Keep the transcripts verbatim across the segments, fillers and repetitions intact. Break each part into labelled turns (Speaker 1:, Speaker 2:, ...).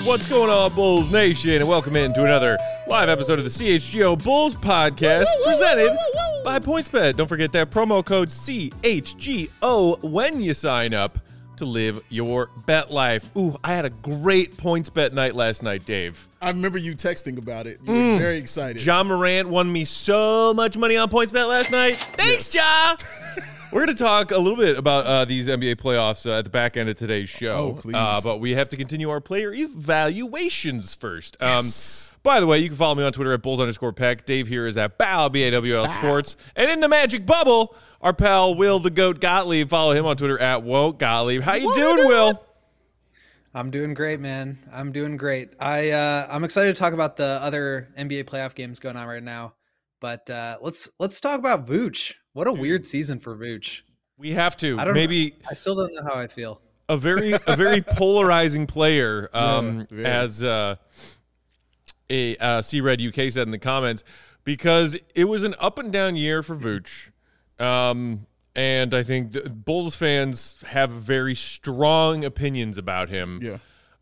Speaker 1: What's going on, Bulls Nation? And welcome in to another live episode of the C H G O Bulls Podcast, presented by PointsBet. Don't forget that promo code C H G O when you sign up to live your bet life. Ooh, I had a great PointsBet night last night, Dave.
Speaker 2: I remember you texting about it. You
Speaker 1: Mm.
Speaker 2: were very excited.
Speaker 1: John Morant won me so much money on PointsBet last night. Thanks, Ja! We're going to talk a little bit about uh, these N B A playoffs uh, at the back end of today's show.
Speaker 2: Oh, please.
Speaker 1: Uh, but we have to continue our player evaluations first.
Speaker 2: Yes.
Speaker 1: Um, by the way, you can follow me on Twitter at Bulls underscore Peck. Dave here is at Bow, B A W L Sports. And in the magic bubble, our pal Will the Goat Gottlieb. Follow him on Twitter at Woke Gottlieb. How you doing, Will?
Speaker 3: I'm doing great, man. I'm doing great. I, uh, I'm excited to talk about the other N B A playoff games going on right now. But uh, let's let's talk about Vooch. What a weird season for Vooch.
Speaker 1: We have to.
Speaker 3: I don't
Speaker 1: Maybe
Speaker 3: know. I still don't know how I feel.
Speaker 1: a very a very polarizing player, um,
Speaker 2: Yeah, yeah.
Speaker 1: as uh, a uh, C-Red U K said in the comments, because it was an up and down year for Vooch, um, and I think the Bulls fans have very strong opinions about him.
Speaker 2: Yeah.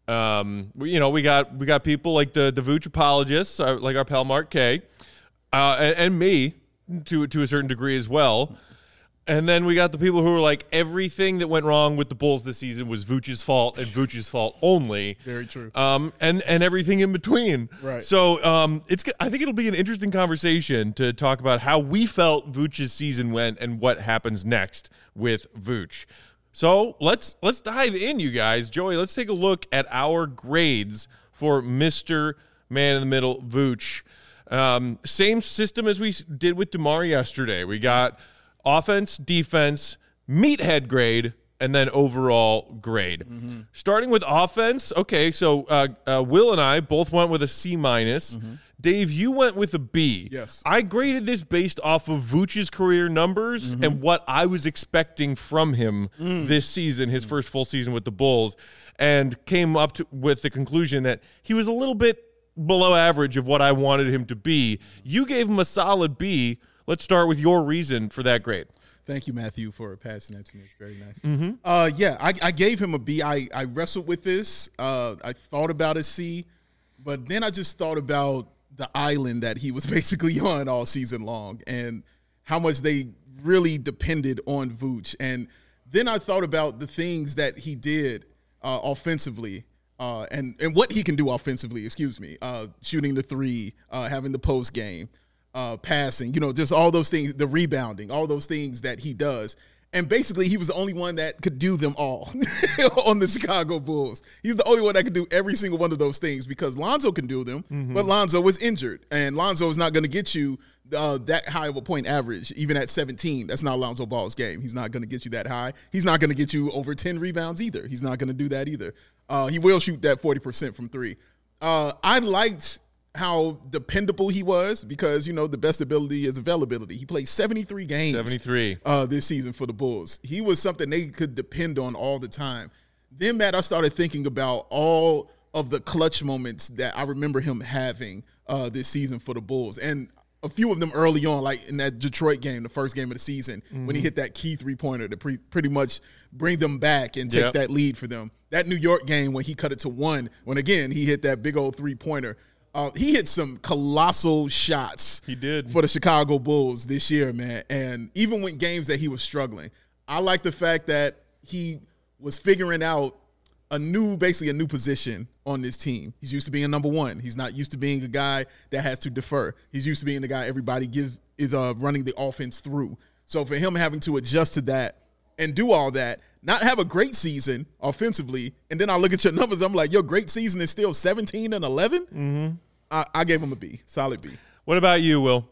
Speaker 1: Um, we, you know, we got we got people like the the Vooch apologists, uh, like our pal Mark K, uh, and, and me to to a certain degree as well. And then we got the people who were like, everything that went wrong with the Bulls this season was Vooch's fault and Vooch's fault only.
Speaker 2: Very true.
Speaker 1: Um, and and everything in between.
Speaker 2: Right.
Speaker 1: So um, it's I think it'll be an interesting conversation to talk about how we felt Vooch's season went and what happens next with Vooch. So let's let's dive in, you guys. Joey, let's take a look at our grades for Mister Man in the Middle Vooch. Um, same system as we did with DeMar yesterday. We got offense, defense, meathead grade, and then overall grade. Mm-hmm. Starting with offense, okay, so uh, uh, Will and I both went with a C minus. Mm-hmm. Dave, you went with a B.
Speaker 2: Yes.
Speaker 1: I graded this based off of Vooch's career numbers mm-hmm. and what I was expecting from him mm. this season, his mm. first full season with the Bulls, and came up to, with the conclusion that he was a little bit below average of what I wanted him to be. You gave him a solid B. Let's start with your reason for that grade.
Speaker 2: Thank you, Matthew, for passing that to me. It's very nice.
Speaker 1: Mm-hmm.
Speaker 2: Uh, yeah, I, I gave him a B. I, I wrestled with this. Uh, I thought about a C, but then I just thought about the island that he was basically on all season long and how much they really depended on Vooch. And then I thought about the things that he did uh, offensively. Uh, and, and what he can do offensively, excuse me, uh, shooting the three, uh, having the post game, uh, passing, you know, just all those things, the rebounding, all those things that he does. And basically he was the only one that could do them all on the Chicago Bulls. He's the only one that could do every single one of those things because Lonzo can do them, mm-hmm. but Lonzo was injured. And Lonzo is not going to get you uh, that high of a point average, even at seventeen. That's not Lonzo Ball's game. He's not going to get you that high. He's not going to get you over ten rebounds either. He's not going to do that either. Uh, he will shoot that forty percent from three. Uh, I liked how dependable he was because, you know, the best ability is availability. He played seventy-three games
Speaker 1: seventy-three
Speaker 2: uh, this season for the Bulls. He was something they could depend on all the time. Then, Matt, I started thinking about all of the clutch moments that I remember him having uh, this season for the Bulls. And a few of them early on, like in that Detroit game, the first game of the season, mm-hmm. when he hit that key three-pointer to pre- pretty much bring them back and take
Speaker 1: yep.
Speaker 2: that lead for them. That New York game when he cut it to one, when, again, he hit that big old three-pointer. Uh, he hit some colossal shots.
Speaker 1: He did.
Speaker 2: For the Chicago Bulls this year, man. And even when games that he was struggling, I like the fact that he was figuring out a new, basically a new position on this team. He's used to being a number one. He's not used to being a guy that has to defer. He's used to being the guy everybody gives is uh, running the offense through. So for him having to adjust to that and do all that, not have a great season offensively, and then I look at your numbers, I'm like, your great season is still seventeen and eleven?
Speaker 1: Mm-hmm.
Speaker 2: I, I gave him a B, solid B.
Speaker 1: What about you, Will?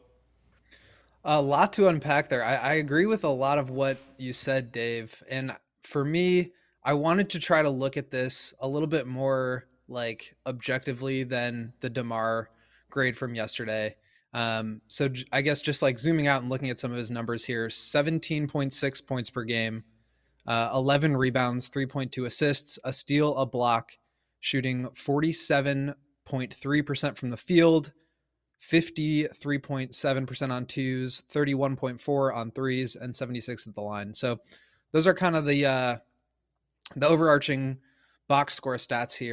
Speaker 3: A lot to unpack there. I, I agree with a lot of what you said, Dave. And for me, I wanted to try to look at this a little bit more like objectively than the DeMar grade from yesterday. Um, so j- I guess just like zooming out and looking at some of his numbers here, seventeen point six points per game, uh, eleven rebounds, three point two assists, a steal, a block, shooting forty-seven point three percent from the field, fifty-three point seven percent on twos, thirty-one point four on threes, and seventy-six at the line. So those are kind of the, uh, the overarching box score stats here.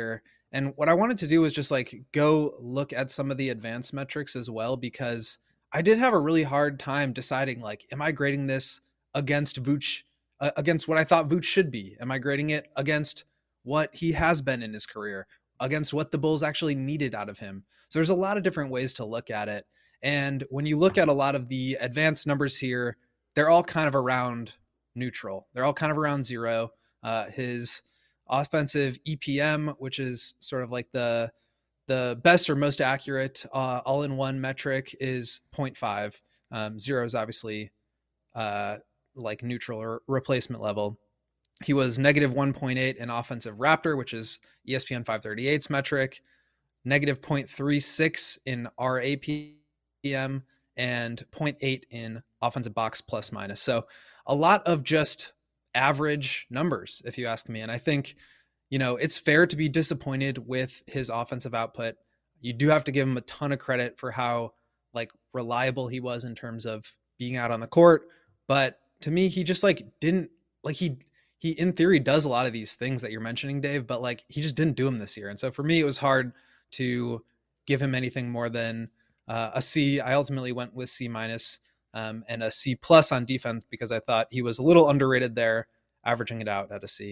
Speaker 3: And what I wanted to do was just like go look at some of the advanced metrics as well, because I did have a really hard time deciding, like, am I grading this against Vooch, uh, against what I thought Vooch should be? Am I grading it against what he has been in his career, against what the Bulls actually needed out of him? So there's a lot of different ways to look at it. And when you look at a lot of the advanced numbers here, they're all kind of around neutral. They're all kind of around zero. Uh, his offensive E P M, which is sort of like the the best or most accurate uh, all-in-one metric, is zero point five. Um, zero is obviously uh, like neutral or replacement level. He was negative one point eight in offensive Raptor, which is E S P N five thirty-eight's metric, negative zero point three six in R A P M, and zero point eight in offensive box plus minus. So a lot of just average numbers, if you ask me. And I think, you know, it's fair to be disappointed with his offensive output. You do have to give him a ton of credit for how like reliable he was in terms of being out on the court. But to me, he just like didn't like he, he in theory does a lot of these things that you're mentioning, Dave, but like he just didn't do them this year. And so for me, it was hard to give him anything more than uh, a C. I ultimately went with C minus. Um, and a C plus on defense because I thought he was a little underrated there, averaging it out at a C.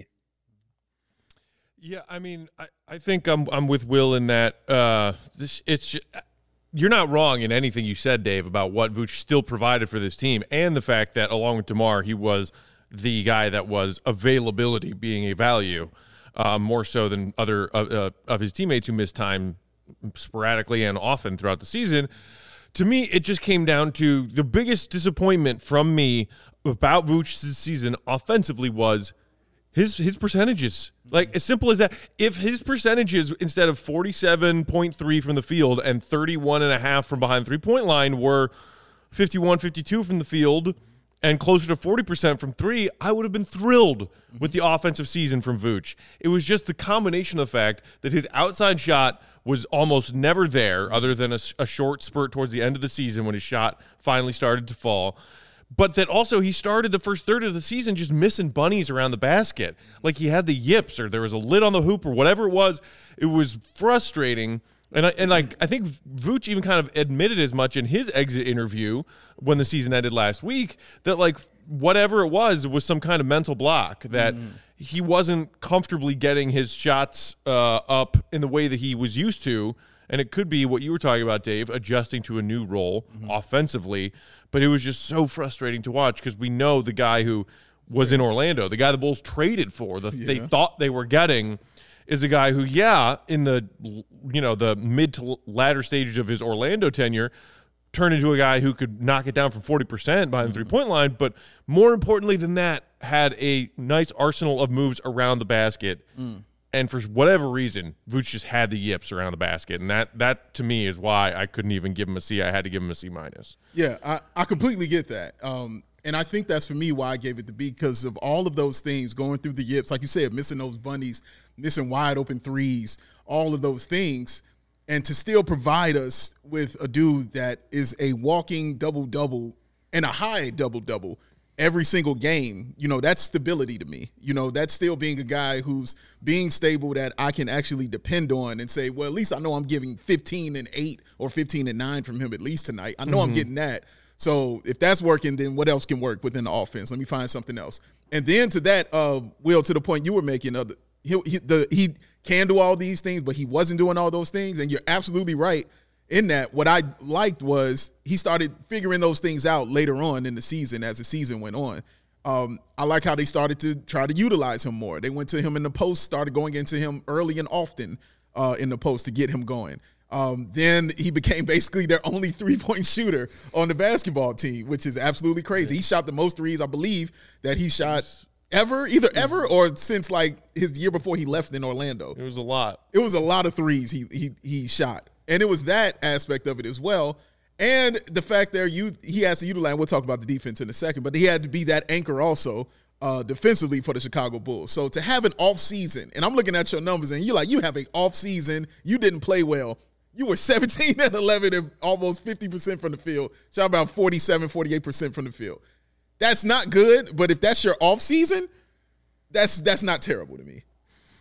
Speaker 1: Yeah, I mean, I, I think I'm I'm with Will in that uh, this it's just, you're not wrong in anything you said, Dave, about what Vooch still provided for this team, and the fact that along with DeMar, he was the guy that was availability being a value, uh, more so than other uh, uh, of his teammates who missed time sporadically and often throughout the season. To me, it just came down to the biggest disappointment from me about Vooch's season offensively was his his percentages. Like, as simple as that. If his percentages, instead of forty-seven point three from the field and thirty-one point five from behind the three-point line, were fifty-one, fifty-two from the field and closer to forty percent from three, I would have been thrilled with the offensive season from Vooch. It was just the combination of the fact that his outside shot was almost never there, other than a, a short spurt towards the end of the season when his shot finally started to fall. But that also he started the first third of the season just missing bunnies around the basket. Like he had the yips or there was a lid on the hoop or whatever it was. It was frustrating. And I, and like I think Vooch even kind of admitted as much in his exit interview when the season ended last week, that like whatever it was was some kind of mental block, that mm. he wasn't comfortably getting his shots uh, up in the way that he was used to. And it could be what you were talking about, Dave, adjusting to a new role mm-hmm. offensively. But it was just so frustrating to watch because we know the guy who was in Orlando, the guy the Bulls traded for, the yeah. they thought they were getting, is a guy who, yeah, in the you know the mid to latter stages of his Orlando tenure, turned into a guy who could knock it down from forty percent behind the mm-hmm. three-point line. But more importantly than that, had a nice arsenal of moves around the basket. Mm. And for whatever reason, Vooch just had the yips around the basket. And that, that to me, is why I couldn't even give him a C. I had to give him a C minus.
Speaker 2: Yeah, I, I completely get that. Um, and I think that's, for me, why I gave it the B, because of all of those things, going through the yips, like you said, missing those bunnies, missing wide open threes, all of those things, and to still provide us with a dude that is a walking double-double and a high double-double every single game. You know, that's stability to me. You know, that's still being a guy who's being stable that I can actually depend on and say, well, at least I know I'm giving fifteen and eight or fifteen and nine from him at least tonight. I know mm-hmm. I'm getting that. So if that's working, then what else can work within the offense? Let me find something else. And then to that, uh, Will, to the point you were making, of the, he, he, the, he can do all these things, but he wasn't doing all those things. And you're absolutely right in that. What I liked was he started figuring those things out later on in the season as the season went on. Um, I like how they started to try to utilize him more. They went to him in the post, started going into him early and often uh, in the post to get him going. Um, then he became basically their only three-point shooter on the basketball team, which is absolutely crazy. He shot the most threes, I believe, that he shot ever, either ever or since like his year before he left in Orlando.
Speaker 1: It was a lot.
Speaker 2: It was a lot of threes he he he shot. And it was that aspect of it as well. And the fact there you he has to utilize, we'll talk about the defense in a second, but he had to be that anchor also uh, defensively for the Chicago Bulls. So to have an off season, and I'm looking at your numbers and you're like, you have an off season, you didn't play well. You were seventeen and eleven and almost fifty percent from the field. Shot about forty-seven, forty-eight percent from the field. That's not good, but if that's your off season, that's that's not terrible to me.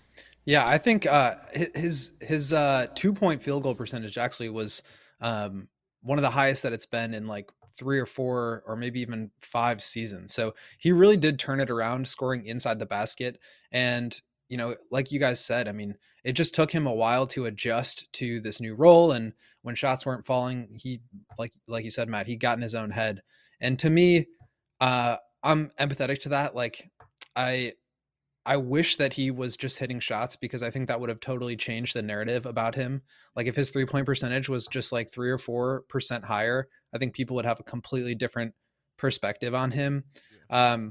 Speaker 3: Yeah, I think uh, his his uh, two point field goal percentage actually was um, one of the highest that it's been in like three or four or maybe even five seasons. So he really did turn it around, scoring inside the basket. And, you know, like you guys said, I mean, it just took him a while to adjust to this new role. And when shots weren't falling, he, like, like you said, Matt, he got in his own head. And to me, uh, I'm empathetic to that. Like I, I wish that he was just hitting shots, because I think that would have totally changed the narrative about him. Like if his three point percentage was just like three or four percent higher, I think people would have a completely different perspective on him. Um,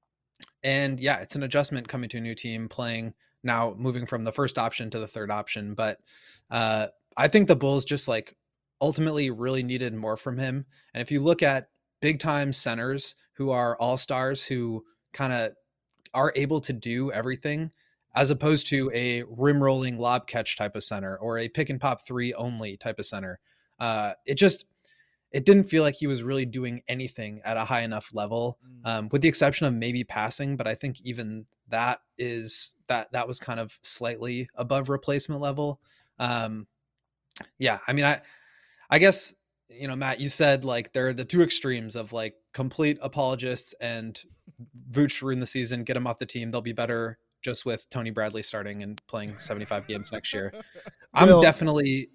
Speaker 3: and yeah, it's an adjustment coming to a new team, playing now, moving from the first option to the third option. But uh, I think the Bulls just like ultimately really needed more from him. And if you look at big time centers who are all-stars, who kind of are able to do everything, as opposed to a rim rolling lob catch type of center or a pick and pop three only type of center. Uh, it just, it didn't feel like he was really doing anything at a high enough level, um, with the exception of maybe passing. But I think even that is that, that was kind of slightly above replacement level. Um, yeah. I mean, I, I guess, you know, Matt, you said like they're the two extremes of like complete apologists and Vooch ruin the season, get him off the team. They'll be better just with Tony Bradley starting and playing seventy-five games next year. I'm
Speaker 4: Will,
Speaker 3: definitely.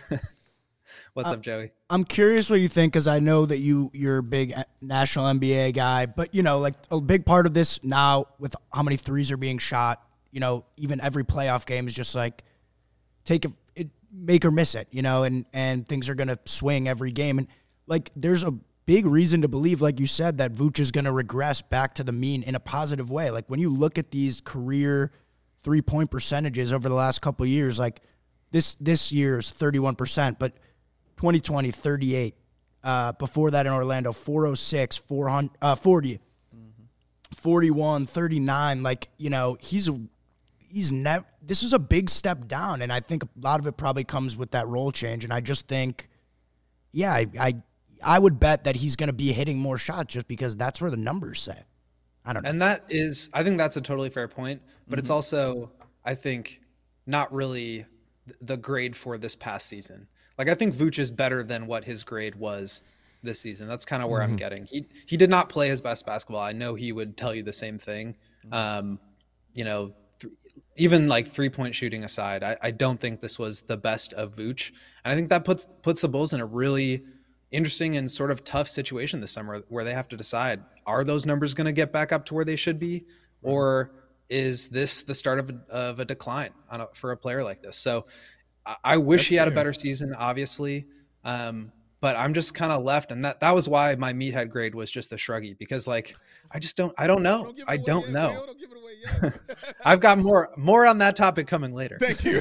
Speaker 3: What's
Speaker 4: uh,
Speaker 3: up, Joey?
Speaker 4: I'm curious what you think, because I know that you you're a big national N B A guy, but you know, like a big part of this now with how many threes are being shot. You know, even every playoff game is just like take a it, make or miss it. You know, and and things are gonna swing every game, and like there's a big reason to believe, like you said, that Vooch is going to regress back to the mean in a positive way. Like when you look at these career three-point percentages over the last couple of years, like this this year is thirty-one percent, but twenty twenty, thirty-eight. Uh, before that in Orlando, four oh six, four hundred, uh, forty, mm-hmm. forty-one, thirty-nine. Like, you know, he's he's never. This is a big step down, and I think a lot of it probably comes with that role change. And I just think, yeah, I. I I would bet that he's going to be hitting more shots just because that's where the numbers say. I don't know.
Speaker 3: And that is, I think that's a totally fair point, but mm-hmm. it's also, I think, not really the grade for this past season. Like, I think Vooch is better than what his grade was this season. That's kind of where mm-hmm. I'm getting. He he did not play his best basketball. I know he would tell you the same thing. Um, you know, th- even like three-point shooting aside, I, I don't think this was the best of Vooch. And I think that puts puts the Bulls in a really interesting and sort of tough situation this summer, where they have to decide, are those numbers going to get back up to where they should be, or is this the start of a, of a decline on a, for a player like this? So I, I wish That's he had fair. a better season, obviously. Um, but I'm just kind of left. And that, that was why my meathead grade was just a shruggy, because like, I just don't, I don't know. Don't I don't yet, know. Man, don't give it away yet. I've got more, more on that topic coming later.
Speaker 2: Thank you.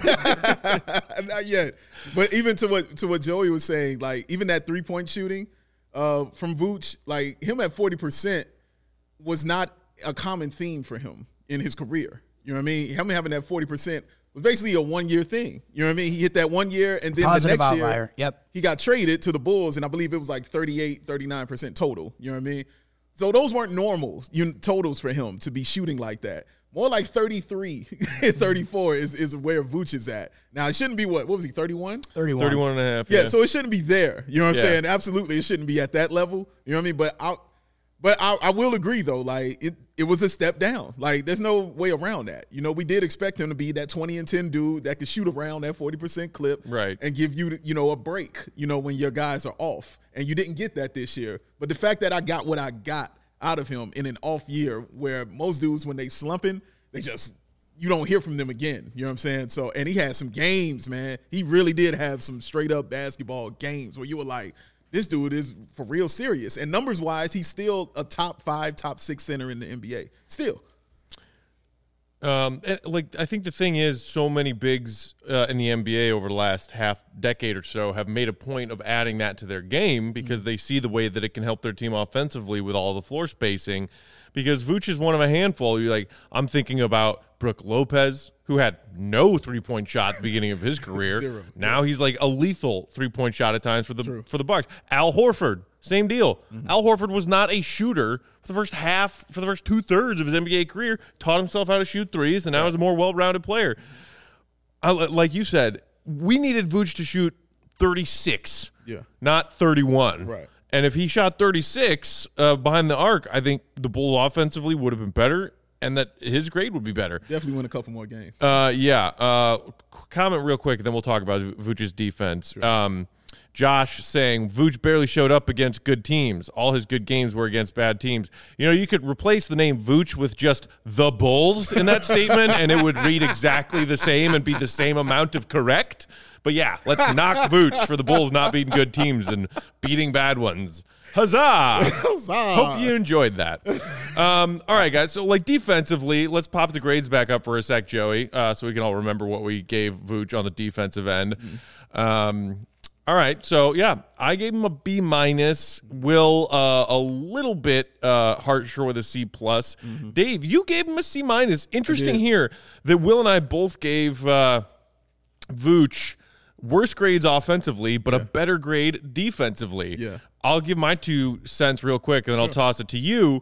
Speaker 2: Not yet. But even to what, to what Joey was saying, like even that three point shooting uh, from Vooch, like him at forty percent was not a common theme for him in his career. You know what I mean? Him having that forty percent was basically a one-year thing. You know what I mean? He hit that one year, and then
Speaker 4: Positive
Speaker 2: the next
Speaker 4: outlier.
Speaker 2: year,
Speaker 4: yep.
Speaker 2: he got traded to the Bulls, and I believe it was like thirty-eight, thirty-nine percent total. You know what I mean? So those weren't normal totals for him to be shooting like that. More like thirty-three, thirty-four is, is where Vooch is at. Now, it shouldn't be what? What was he, thirty-one?
Speaker 4: thirty-one.
Speaker 1: thirty-one and a half.
Speaker 2: Yeah,
Speaker 1: yeah.
Speaker 2: so it shouldn't be there. You know what I'm
Speaker 1: yeah.
Speaker 2: saying? Absolutely, it shouldn't be at that level. You know what I mean? But I But I, I will agree, though, like, it, it was a step down. Like, there's no way around that. You know, we did expect him to be that twenty and ten dude that could shoot around that forty percent clip
Speaker 1: right.
Speaker 2: and give you, you know, a break, you know, when your guys are off. And you didn't get that this year. But the fact that I got what I got out of him in an off year, where most dudes, when they slumping, they just – you don't hear from them again. You know what I'm saying? So, and he had some games, man. He really did have some straight-up basketball games where you were like – this dude is for real serious. And numbers-wise, he's still a top five, top six center in the N B A. Still.
Speaker 1: Um, and like I think the thing is, so many bigs uh, in the N B A over the last half decade or so have made a point of adding that to their game because mm-hmm. they see the way that it can help their team offensively with all the floor spacing. Because Vooch is one of a handful. You like, I'm thinking about Brook Lopez, who had no three-point shot at the beginning of his career.
Speaker 2: Zero.
Speaker 1: Now
Speaker 2: yes.
Speaker 1: he's like a lethal three-point shot at times for the
Speaker 2: True.
Speaker 1: for the Bucks. Al Horford, same deal.
Speaker 2: Mm-hmm.
Speaker 1: Al Horford was not a shooter for the first half, for the first two-thirds of his N B A career, taught himself how to shoot threes, and now right. he's a more well-rounded player. I, like you said, we needed Vooch to shoot thirty-six,
Speaker 2: Yeah.
Speaker 1: not thirty-one.
Speaker 2: Right.
Speaker 1: And if he shot thirty-six uh, behind the arc, I think the Bulls offensively would have been better, and that his grade would be better.
Speaker 2: Definitely win a couple more games.
Speaker 1: Uh, yeah. Uh, comment real quick, and then we'll talk about Vooch's defense.
Speaker 2: Sure.
Speaker 1: Um, Josh saying Vooch barely showed up against good teams. All his good games were against bad teams. You know, you could replace the name Vooch with just the Bulls in that statement, and it would read exactly the same and be the same amount of correct. But yeah, let's knock Vooch for the Bulls not beating good teams and beating bad ones. Huzzah!
Speaker 2: Huzzah!
Speaker 1: Hope you enjoyed that. Um, all right, guys. So, like, defensively, let's pop the grades back up for a sec, Joey, uh, so we can all remember what we gave Vooch on the defensive end. Mm-hmm. Um, all right. So, yeah, I gave him a B minus. Will uh, a little bit uh, harsher with a C plus. Mm-hmm. Dave, you gave him a C minus. Interesting here that Will and I both gave uh, Vooch worse grades offensively, but yeah. a better grade defensively.
Speaker 2: Yeah.
Speaker 1: I'll give my two cents real quick, and then sure. I'll toss it to you.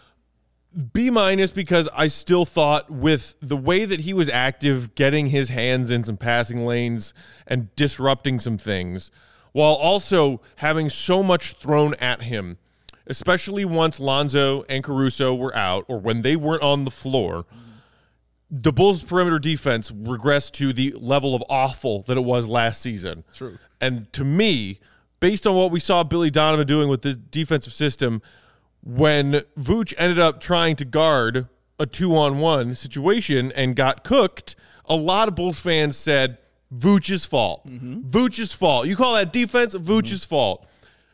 Speaker 1: B minus because I still thought with the way that he was active, getting his hands in some passing lanes and disrupting some things, while also having so much thrown at him, especially once Lonzo and Caruso were out or when they weren't on the floor, the Bulls' perimeter defense regressed to the level of awful that it was last season.
Speaker 2: True.
Speaker 1: And to me, based on what we saw Billy Donovan doing with this defensive system, when Vooch ended up trying to guard a two-on-one situation and got cooked, a lot of Bulls fans said, Vooch's fault. Mm-hmm. Vooch's fault. You call that defense? Vooch's mm-hmm. fault.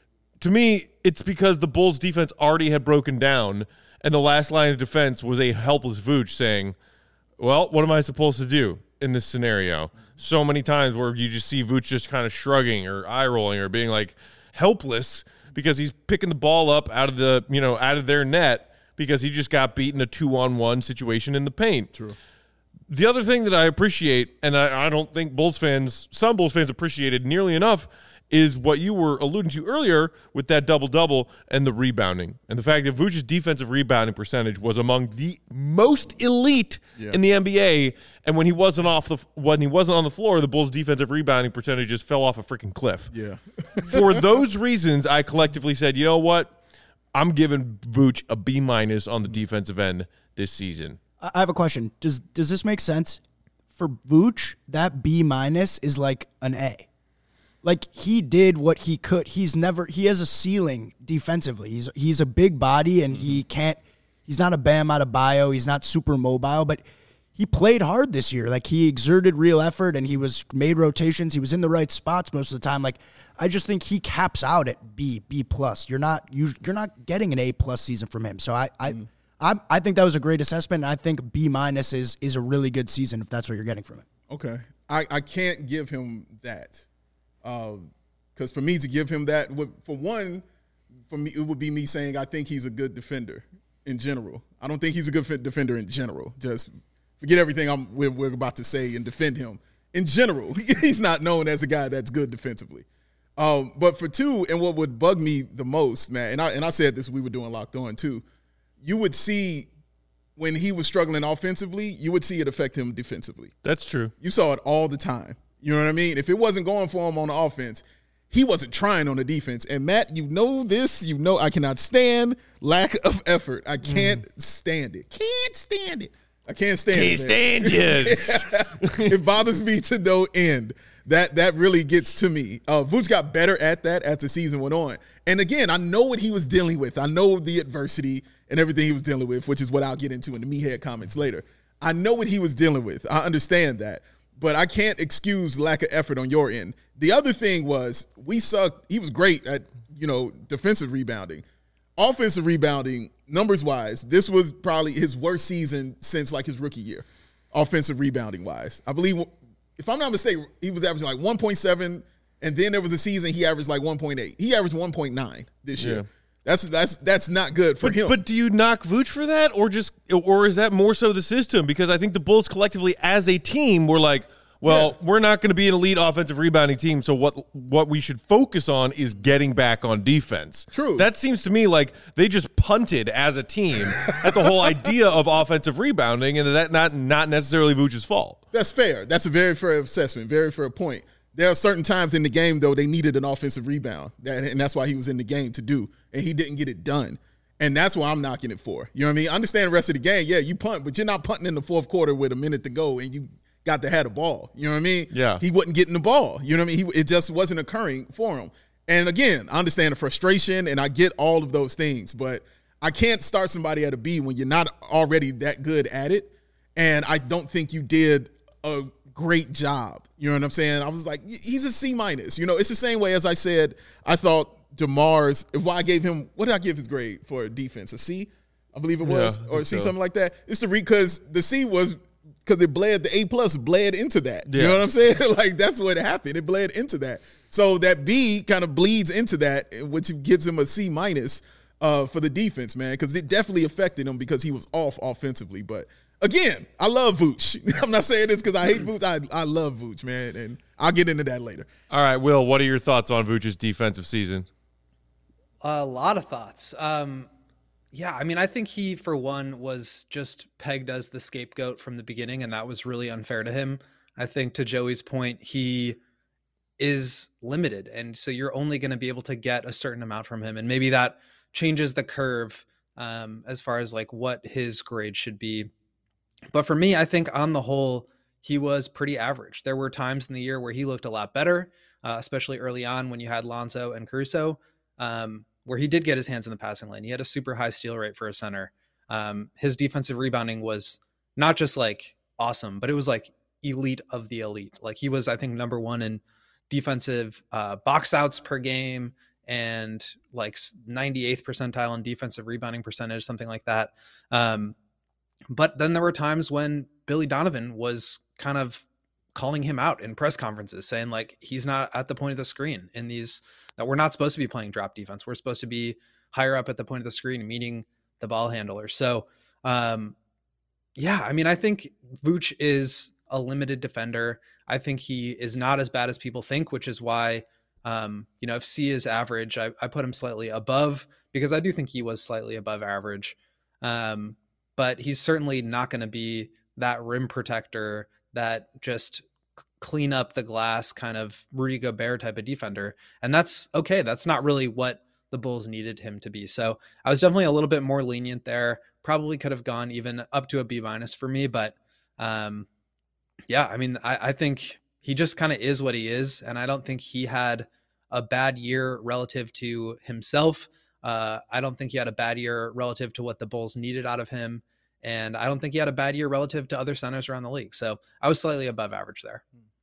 Speaker 1: To me, it's because the Bulls' defense already had broken down, and the last line of defense was a helpless Vooch saying, well, what am I supposed to do in this scenario? So many times where you just see Vooch just kind of shrugging or eye-rolling or being like helpless because he's picking the ball up out of the, you know, out of their net because he just got beaten a two-on-one situation in the paint.
Speaker 2: True.
Speaker 1: The other thing that I appreciate, and I, I don't think Bulls fans, some Bulls fans appreciated nearly enough, is what you were alluding to earlier with that double-double and the rebounding. And the fact that Vooch's defensive rebounding percentage was among the most elite yeah. in the N B A, and when he wasn't off the when he wasn't on the floor, the Bulls' defensive rebounding percentage just fell off a freaking cliff.
Speaker 2: Yeah.
Speaker 1: For those reasons, I collectively said, you know what? I'm giving Vooch a B minus on the defensive end this season.
Speaker 4: I have a question. Does does this make sense? For Vooch, that B minus is like an A. Like, he did what he could. He's never, he has a ceiling defensively. He's he's a big body, and he can't, he's not a Bam Adebayo. He's not super mobile, but he played hard this year. Like, he exerted real effort, and he was made rotations. He was in the right spots most of the time. Like, I just think he caps out at B, B plus. You're not, you're not getting an A plus season from him. So I, I, mm. I, I think that was a great assessment, and I think B minus is is a really good season if that's what you're getting from it.
Speaker 2: Okay. I, I can't give him that. Because uh, for me to give him that, would, for one, for me it would be me saying I think he's a good defender in general. I don't think he's a good defender in general. Just forget everything I'm, we're, we're about to say and defend him. In general, he's not known as a guy that's good defensively. Um, but for two, and what would bug me the most, man, and I and I said this, we were doing Locked On too, you would see when he was struggling offensively, you would see it affect him defensively.
Speaker 1: That's true.
Speaker 2: You saw it all the time. You know what I mean? If it wasn't going for him on the offense, he wasn't trying on the defense. And, Matt, you know this. You know I cannot stand lack of effort. I can't mm. stand it. Can't stand it. I can't stand
Speaker 1: can't
Speaker 2: it.
Speaker 1: Can't stand
Speaker 2: it. It bothers me to no end. That that really gets to me. Uh, Vooch got better at that as the season went on. And, again, I know what he was dealing with. I know the adversity and everything he was dealing with, which is what I'll get into in the meathead comments later. I know what he was dealing with. I understand that. But I can't excuse lack of effort on your end. The other thing was we sucked. He was great at, you know, defensive rebounding. Offensive rebounding, numbers-wise, this was probably his worst season since, like, his rookie year, offensive rebounding-wise. I believe, if I'm not mistaken, he was averaging like one point seven, and then there was a season he averaged like one point eight. He averaged one point nine this year. Yeah. That's that's that's not good for
Speaker 1: but,
Speaker 2: him.
Speaker 1: But do you knock Vooch for that, or just, or is that more so the system? Because I think the Bulls collectively, as a team, were like, well, yeah. we're not going to be an elite offensive rebounding team, so what what we should focus on is getting back on defense.
Speaker 2: True.
Speaker 1: That seems to me like they just punted as a team at the whole idea of offensive rebounding, and that not not necessarily Vooch's fault.
Speaker 2: That's fair. That's a very fair assessment. Very fair point. There are certain times in the game, though, they needed an offensive rebound, that, and that's why he was in the game to do, and he didn't get it done. And that's what I'm knocking it for. You know what I mean? I understand the rest of the game. Yeah, you punt, but you're not punting in the fourth quarter with a minute to go, and you got to have the ball. You know what I mean?
Speaker 1: Yeah.
Speaker 2: He wasn't getting the ball. You know what I mean? He, it just wasn't occurring for him. And, again, I understand the frustration, and I get all of those things, but I can't start somebody at a B when you're not already that good at it, and I don't think you did a great job. You know what I'm saying? I was like, he's a C minus. You know, it's the same way as I said, I thought DeMar's, if I gave him, what did I give his grade for defense? A C, I believe it was,
Speaker 1: yeah,
Speaker 2: or a C,
Speaker 1: so.
Speaker 2: something like that. It's the re, because the C was, because it bled, the A plus bled into that.
Speaker 1: Yeah.
Speaker 2: You know what I'm saying? Like, that's what happened. It bled into that. So that B kind of bleeds into that, which gives him a C minus uh, for the defense, man, because it definitely affected him because he was off offensively. But again, I love Vooch. I'm not saying this because I hate Vooch. I, I love Vooch, man, and I'll get into that later.
Speaker 1: All right, Will, what are your thoughts on Vooch's defensive season?
Speaker 3: A lot of thoughts. Um, yeah, I mean, I think he, for one, was just pegged as the scapegoat from the beginning, and that was really unfair to him. I think, to Joey's point, he is limited, and so you're only going to be able to get a certain amount from him, and maybe that changes the curve um, as far as like what his grade should be. But for me, I think on the whole, he was pretty average. There were times in the year where he looked a lot better, uh, especially early on when you had Lonzo and Caruso, um, where he did get his hands in the passing lane. He had a super high steal rate for a center. Um, his defensive rebounding was not just like awesome, but it was like elite of the elite. Like he was, I think, number one in defensive uh, box outs per game and like ninety-eighth percentile in defensive rebounding percentage, something like that. Um, But then there were times when Billy Donovan was kind of calling him out in press conferences, saying like, he's not at the point of the screen in these, that we're not supposed to be playing drop defense. We're supposed to be higher up at the point of the screen, meeting the ball handler. So um, yeah, I mean, I think Vooch is a limited defender. I think he is not as bad as people think, which is why, um, you know, if C is average, I, I put him slightly above because I do think he was slightly above average. Um, But he's certainly not going to be that rim protector, that just clean up the glass kind of Rudy Gobert type of defender. And that's okay. That's not really what the Bulls needed him to be. So I was definitely a little bit more lenient there. Probably could have gone even up to a B minus for me. But um, yeah, I mean, I, I think he just kind of is what he is. And I don't think he had a bad year relative to himself. Uh, I don't think he had a bad year relative to what the Bulls needed out of him. And I don't think he had a bad year relative to other centers around the league. So I was slightly above average there.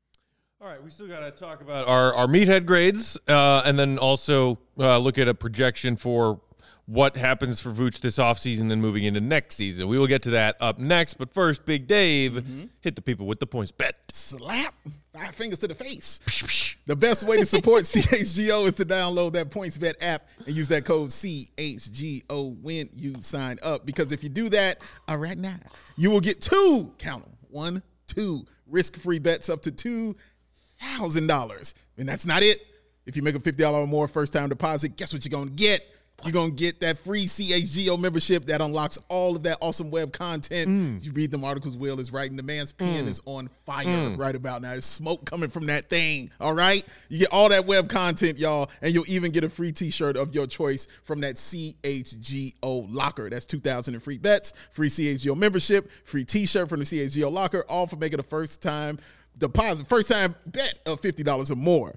Speaker 1: All right, we still got to talk about our, our meathead grades uh, and then also uh, look at a projection for what happens for Vooch this offseason and moving into next season. We will get to that up next. But first, Big Dave, mm-hmm. hit the people with the points bet.
Speaker 2: Slap. Five fingers to the face. The best way to support C H G O is to download that PointsBet app and use that code C H G O when you sign up. Because if you do that uh, right now, you will get two, count them, one, two risk-free bets up to two thousand dollars. And that's not it. If you make a fifty dollars or more first-time deposit, guess what you're going to get? You're going to get that free C H G O membership that unlocks all of that awesome web content. Mm. You read them articles Will is writing. The man's pen mm. is on fire mm. right about now. There's smoke coming from that thing, all right? You get all that web content, y'all, and you'll even get a free T-shirt of your choice from that C H G O locker. That's two thousand in free bets, free C H G O membership, free T-shirt from the C H G O locker, all for making a first-time deposit, first-time bet of fifty dollars or more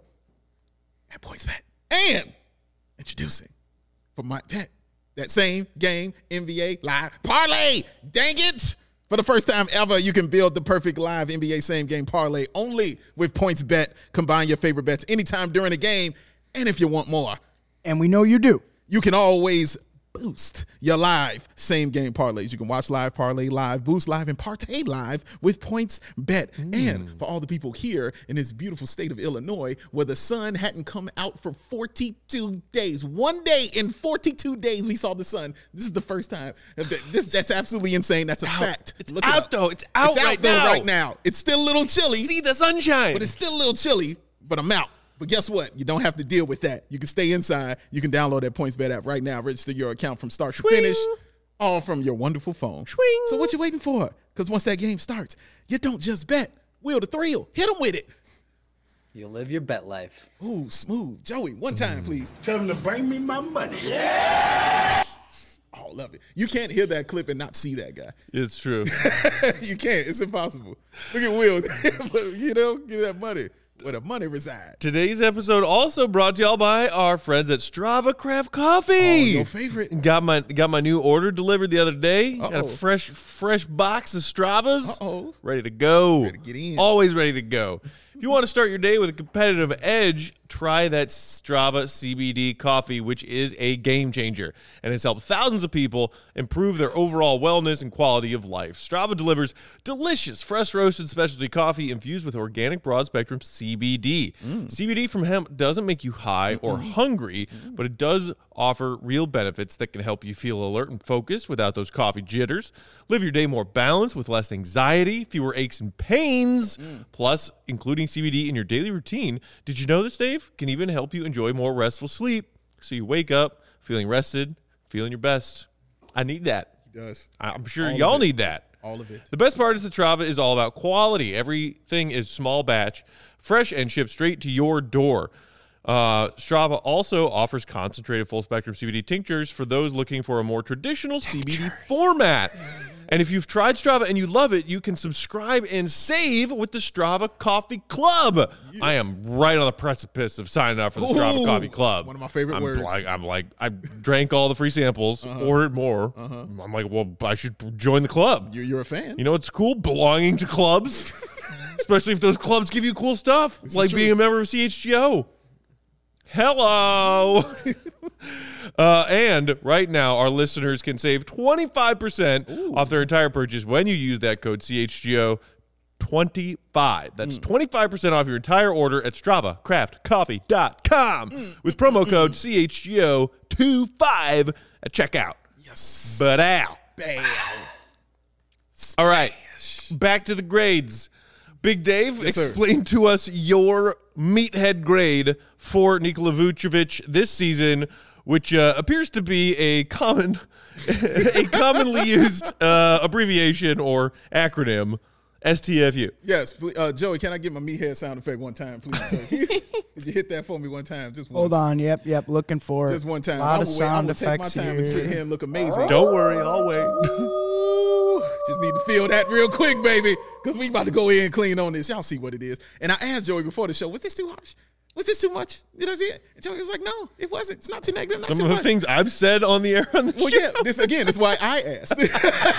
Speaker 2: at PointsBet. And introducing for my bet, that same game N B A live parlay. Dang it. For the first time ever, you can build the perfect live N B A same game parlay only with PointsBet. Combine your favorite bets anytime during the game. And if you want more,
Speaker 4: and we know you do,
Speaker 2: you can always boost your live same game parlays. You can watch live, parlay live, boost live, and partay live with PointsBet. Mm. And for all the people here in this beautiful state of Illinois where the sun hadn't come out for forty-two days, one day in forty-two days we saw the sun. This is the first time. This, that's absolutely insane. That's
Speaker 1: it's
Speaker 2: a
Speaker 1: out.
Speaker 2: fact.
Speaker 1: It's
Speaker 2: Look
Speaker 1: out,
Speaker 2: it
Speaker 1: though. It's out,
Speaker 2: it's
Speaker 1: right,
Speaker 2: out though,
Speaker 1: now.
Speaker 2: right now. It's still a little chilly.
Speaker 1: See the sunshine.
Speaker 2: But it's still a little chilly, but I'm out. But guess what? You don't have to deal with that. You can stay inside. You can download that PointsBet app right now. Register your account from start to finish, all from your wonderful phone.
Speaker 1: Swing.
Speaker 2: So what you waiting for? Because once that game starts, you don't just bet. Will the thrill. Hit him with it.
Speaker 3: You live your bet life.
Speaker 2: Ooh, smooth. Joey, one time, please.
Speaker 5: Tell them to bring me my money.
Speaker 2: Oh, love it. You can't hear that clip and not see that guy.
Speaker 1: It's true.
Speaker 2: You can't. It's impossible. Look at Will. You know, give that money where the money resides.
Speaker 1: Today's episode also brought to y'all by our friends at Strava Craft Coffee.
Speaker 2: Oh, your favorite.
Speaker 1: Got my got my new order delivered the other day.
Speaker 2: Uh-oh.
Speaker 1: Got a fresh fresh box of Stravas.
Speaker 2: Uh-oh.
Speaker 1: Ready to go.
Speaker 2: Ready to get in.
Speaker 1: Always ready to go. If you want to start your day with a competitive edge, try that Strava C B D coffee, which is a game changer and has helped thousands of people improve their overall wellness and quality of life. Strava delivers delicious, fresh roasted specialty coffee infused with organic broad spectrum C B D. Mm. C B D from hemp doesn't make you high mm-hmm. or hungry, mm-hmm. but it does offer real benefits that can help you feel alert and focused without those coffee jitters. Live your day more balanced with less anxiety, fewer aches and pains. Mm. Plus, including C B D in your daily routine, did you know this, Dave, can even help you enjoy more restful sleep so you wake up feeling rested, feeling your best. I need that.
Speaker 2: He does.
Speaker 1: I'm sure
Speaker 2: all
Speaker 1: y'all need that.
Speaker 2: All of it.
Speaker 1: The best part is that Strava is all about quality. Everything is small batch, fresh, and shipped straight to your door. Uh, Strava also offers concentrated full-spectrum C B D tinctures for those looking for a more traditional C B D format. And if you've tried Strava and you love it, you can subscribe and save with the Strava Coffee Club. Yeah. I am right on the precipice of signing up for the Ooh, Strava Coffee Club.
Speaker 2: One of my favorite
Speaker 1: I'm
Speaker 2: words.
Speaker 1: Like, I'm like, I drank all the free samples, uh-huh. ordered more. Uh-huh. I'm like, well, I should join the club.
Speaker 2: You're, you're a fan.
Speaker 1: You know what's cool? Belonging to clubs, especially if those clubs give you cool stuff, this like being a member of C H G O. Hello. uh, and right now, our listeners can save twenty-five percent Ooh. Off their entire purchase when you use that code C H G O twenty-five. That's mm. twenty-five percent off your entire order at Strava Craft Coffee dot com mm. with promo code C H G O twenty-five at checkout.
Speaker 2: Yes.
Speaker 1: But out.
Speaker 2: Bam.
Speaker 1: All right. Back to the grades. Big Dave,
Speaker 2: yes,
Speaker 1: explain
Speaker 2: sir.
Speaker 1: to us your meathead grade for Nikola Vucevic this season, which uh, appears to be a common, a commonly used uh, abbreviation or acronym, S T F U.
Speaker 2: Yes, uh, Joey, can I get my meathead sound effect one time, please? Could you hit that for me one time? Just once.
Speaker 4: Hold on. Yep, yep. Looking for
Speaker 2: just one time.
Speaker 4: A lot
Speaker 2: I
Speaker 4: of
Speaker 2: will
Speaker 4: sound
Speaker 2: wait. I will
Speaker 4: effects
Speaker 2: take my time
Speaker 4: here.
Speaker 2: and sit here and look amazing.
Speaker 1: Don't worry, I'll wait.
Speaker 2: Just need to feel that real quick, baby, because we about to go in and clean on this. Y'all see what it is. And I asked Joey before the show, was this too harsh? Was this too much? Did I see it? And Joey was like, no, it wasn't. It's not too negative, not
Speaker 1: Some
Speaker 2: too
Speaker 1: of the
Speaker 2: much.
Speaker 1: things I've said on the air on the
Speaker 2: well,
Speaker 1: show.
Speaker 2: yeah, this again, this is why I asked. This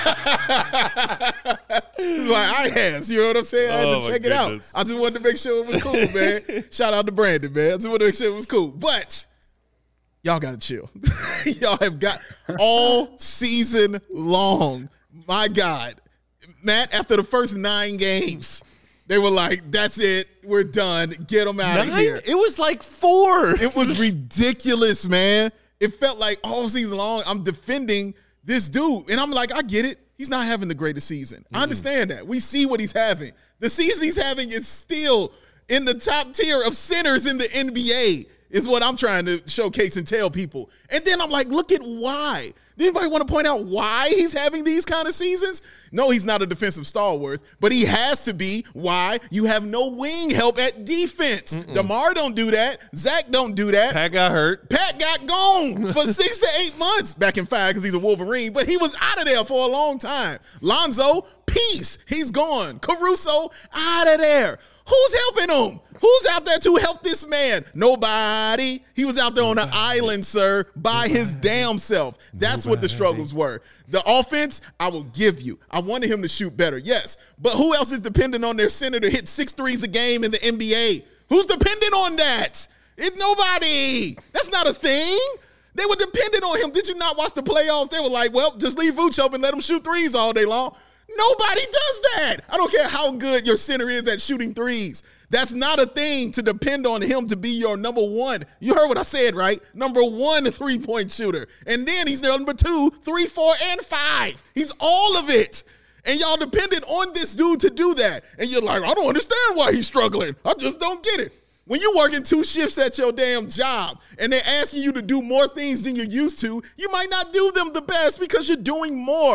Speaker 2: is why I asked. You know what I'm saying? I had
Speaker 1: Oh,
Speaker 2: to
Speaker 1: my
Speaker 2: check it out.
Speaker 1: goodness.
Speaker 2: I just wanted to make sure it was cool, man. Shout out to Brandon, man. I just wanted to make sure it was cool. But y'all got to chill. Y'all have got all season long. My God. Matt, after the first nine games, they were like, that's it. We're done. Get them out of here.
Speaker 1: It was like four.
Speaker 2: It was ridiculous, man. It felt like all season long I'm defending this dude. And I'm like, I get it. He's not having the greatest season. Mm-hmm. I understand that. We see what he's having. The season he's having is still in the top tier of centers in the N B A is what I'm trying to showcase and tell people. And then I'm like, look at why. Does anybody want to point out why he's having these kind of seasons? No, he's not a defensive stalwart, but he has to be. Why? You have no wing help at defense. Mm-mm. DeMar don't do that. Zach don't do that.
Speaker 1: Pat got hurt.
Speaker 2: Pat got gone for six to eight months. Back in five because he's a Wolverine, but he was out of there for a long time. Lonzo, peace. He's gone. Caruso, out of there. Who's helping him? Who's out there to help this man? Nobody. He was out there on an island, sir, by his damn self. That's what the struggles were. The offense, I will give you. I wanted him to shoot better, yes. But who else is dependent on their center to hit six threes a game in the N B A? Who's dependent on that? It's nobody. That's not a thing. They were dependent on him. Did you not watch the playoffs? They were like, well, just leave Vooch open and let him shoot threes all day long. Nobody does that. I don't care how good your center is at shooting threes. That's not a thing to depend on him to be your number one. You heard what I said, right? Number one three-point shooter. And then he's number two, three, four, and five. He's all of it. And y'all depended on this dude to do that. And you're like, I don't understand why he's struggling. I just don't get it. When you're working two shifts at your damn job and they're asking you to do more things than you're used to, you might not do them the best because you're doing more.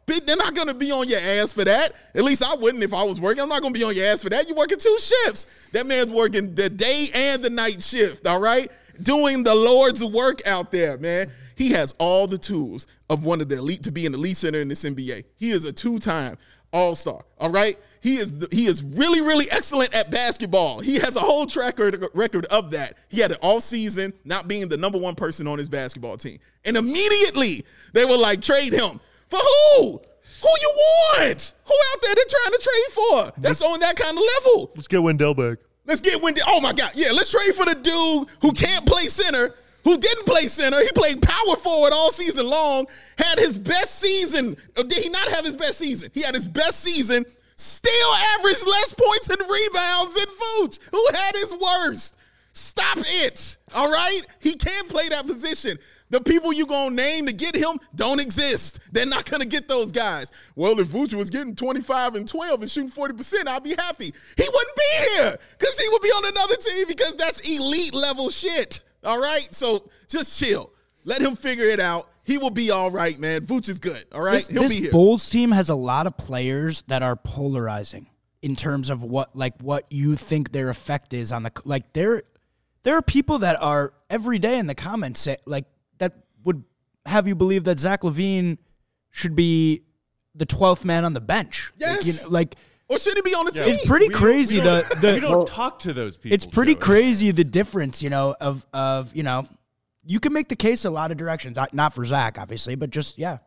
Speaker 2: They're not going to be on your ass for that. At least I wouldn't if I was working. I'm not going to be on your ass for that. You're working two shifts. That man's working the day and the night shift, all right? Doing the Lord's work out there, man. He has all the tools of one of the elite to be an elite center in this N B A. He is a two-time all-star, all right? He is the, he is really, really excellent at basketball. He has a whole track record of that. He had it all season, not being the number one person on his basketball team. And immediately, they were like, trade him. For who? Who you want? Who out there they're trying to trade for? That's on that kind of level.
Speaker 1: Let's get Wendell back.
Speaker 2: Let's get Wendell. Oh, my God. Yeah, let's trade for the dude who can't play center, who didn't play center. He played power forward all season long, had his best season. Or did he not have his best season? He had his best season, still averaged less points and rebounds than Vooch, who had his worst. Stop it, all right? He can't play that position. The people you going to name to get him don't exist. They're not going to get those guys. Well, if Vooch was getting twenty-five and twelve and shooting forty percent, I'd be happy. He wouldn't be here because he would be on another team because that's elite level shit, all right? So just chill. Let him figure it out. He will be all right, man. Vooch is good, all right?
Speaker 4: This,
Speaker 2: He'll
Speaker 4: this
Speaker 2: be here.
Speaker 4: Bulls team has a lot of players that are polarizing in terms of what, like, what you think their effect is on the – like, there, there are people that are every day in the comments say, like, that would have you believe that Zach LaVine should be the twelfth man on the bench.
Speaker 2: Yes.
Speaker 4: Like, you know, like
Speaker 2: or should he be on the
Speaker 1: Yeah.
Speaker 2: team?
Speaker 4: it's pretty
Speaker 1: We-
Speaker 4: crazy.
Speaker 1: we
Speaker 4: the
Speaker 1: don't-
Speaker 4: the
Speaker 1: we don't talk to those people.
Speaker 4: it's pretty
Speaker 1: Joey.
Speaker 4: crazy the difference, you know, of of you know, you can make the case a lot of directions. Not for Zach, obviously, but just yeah.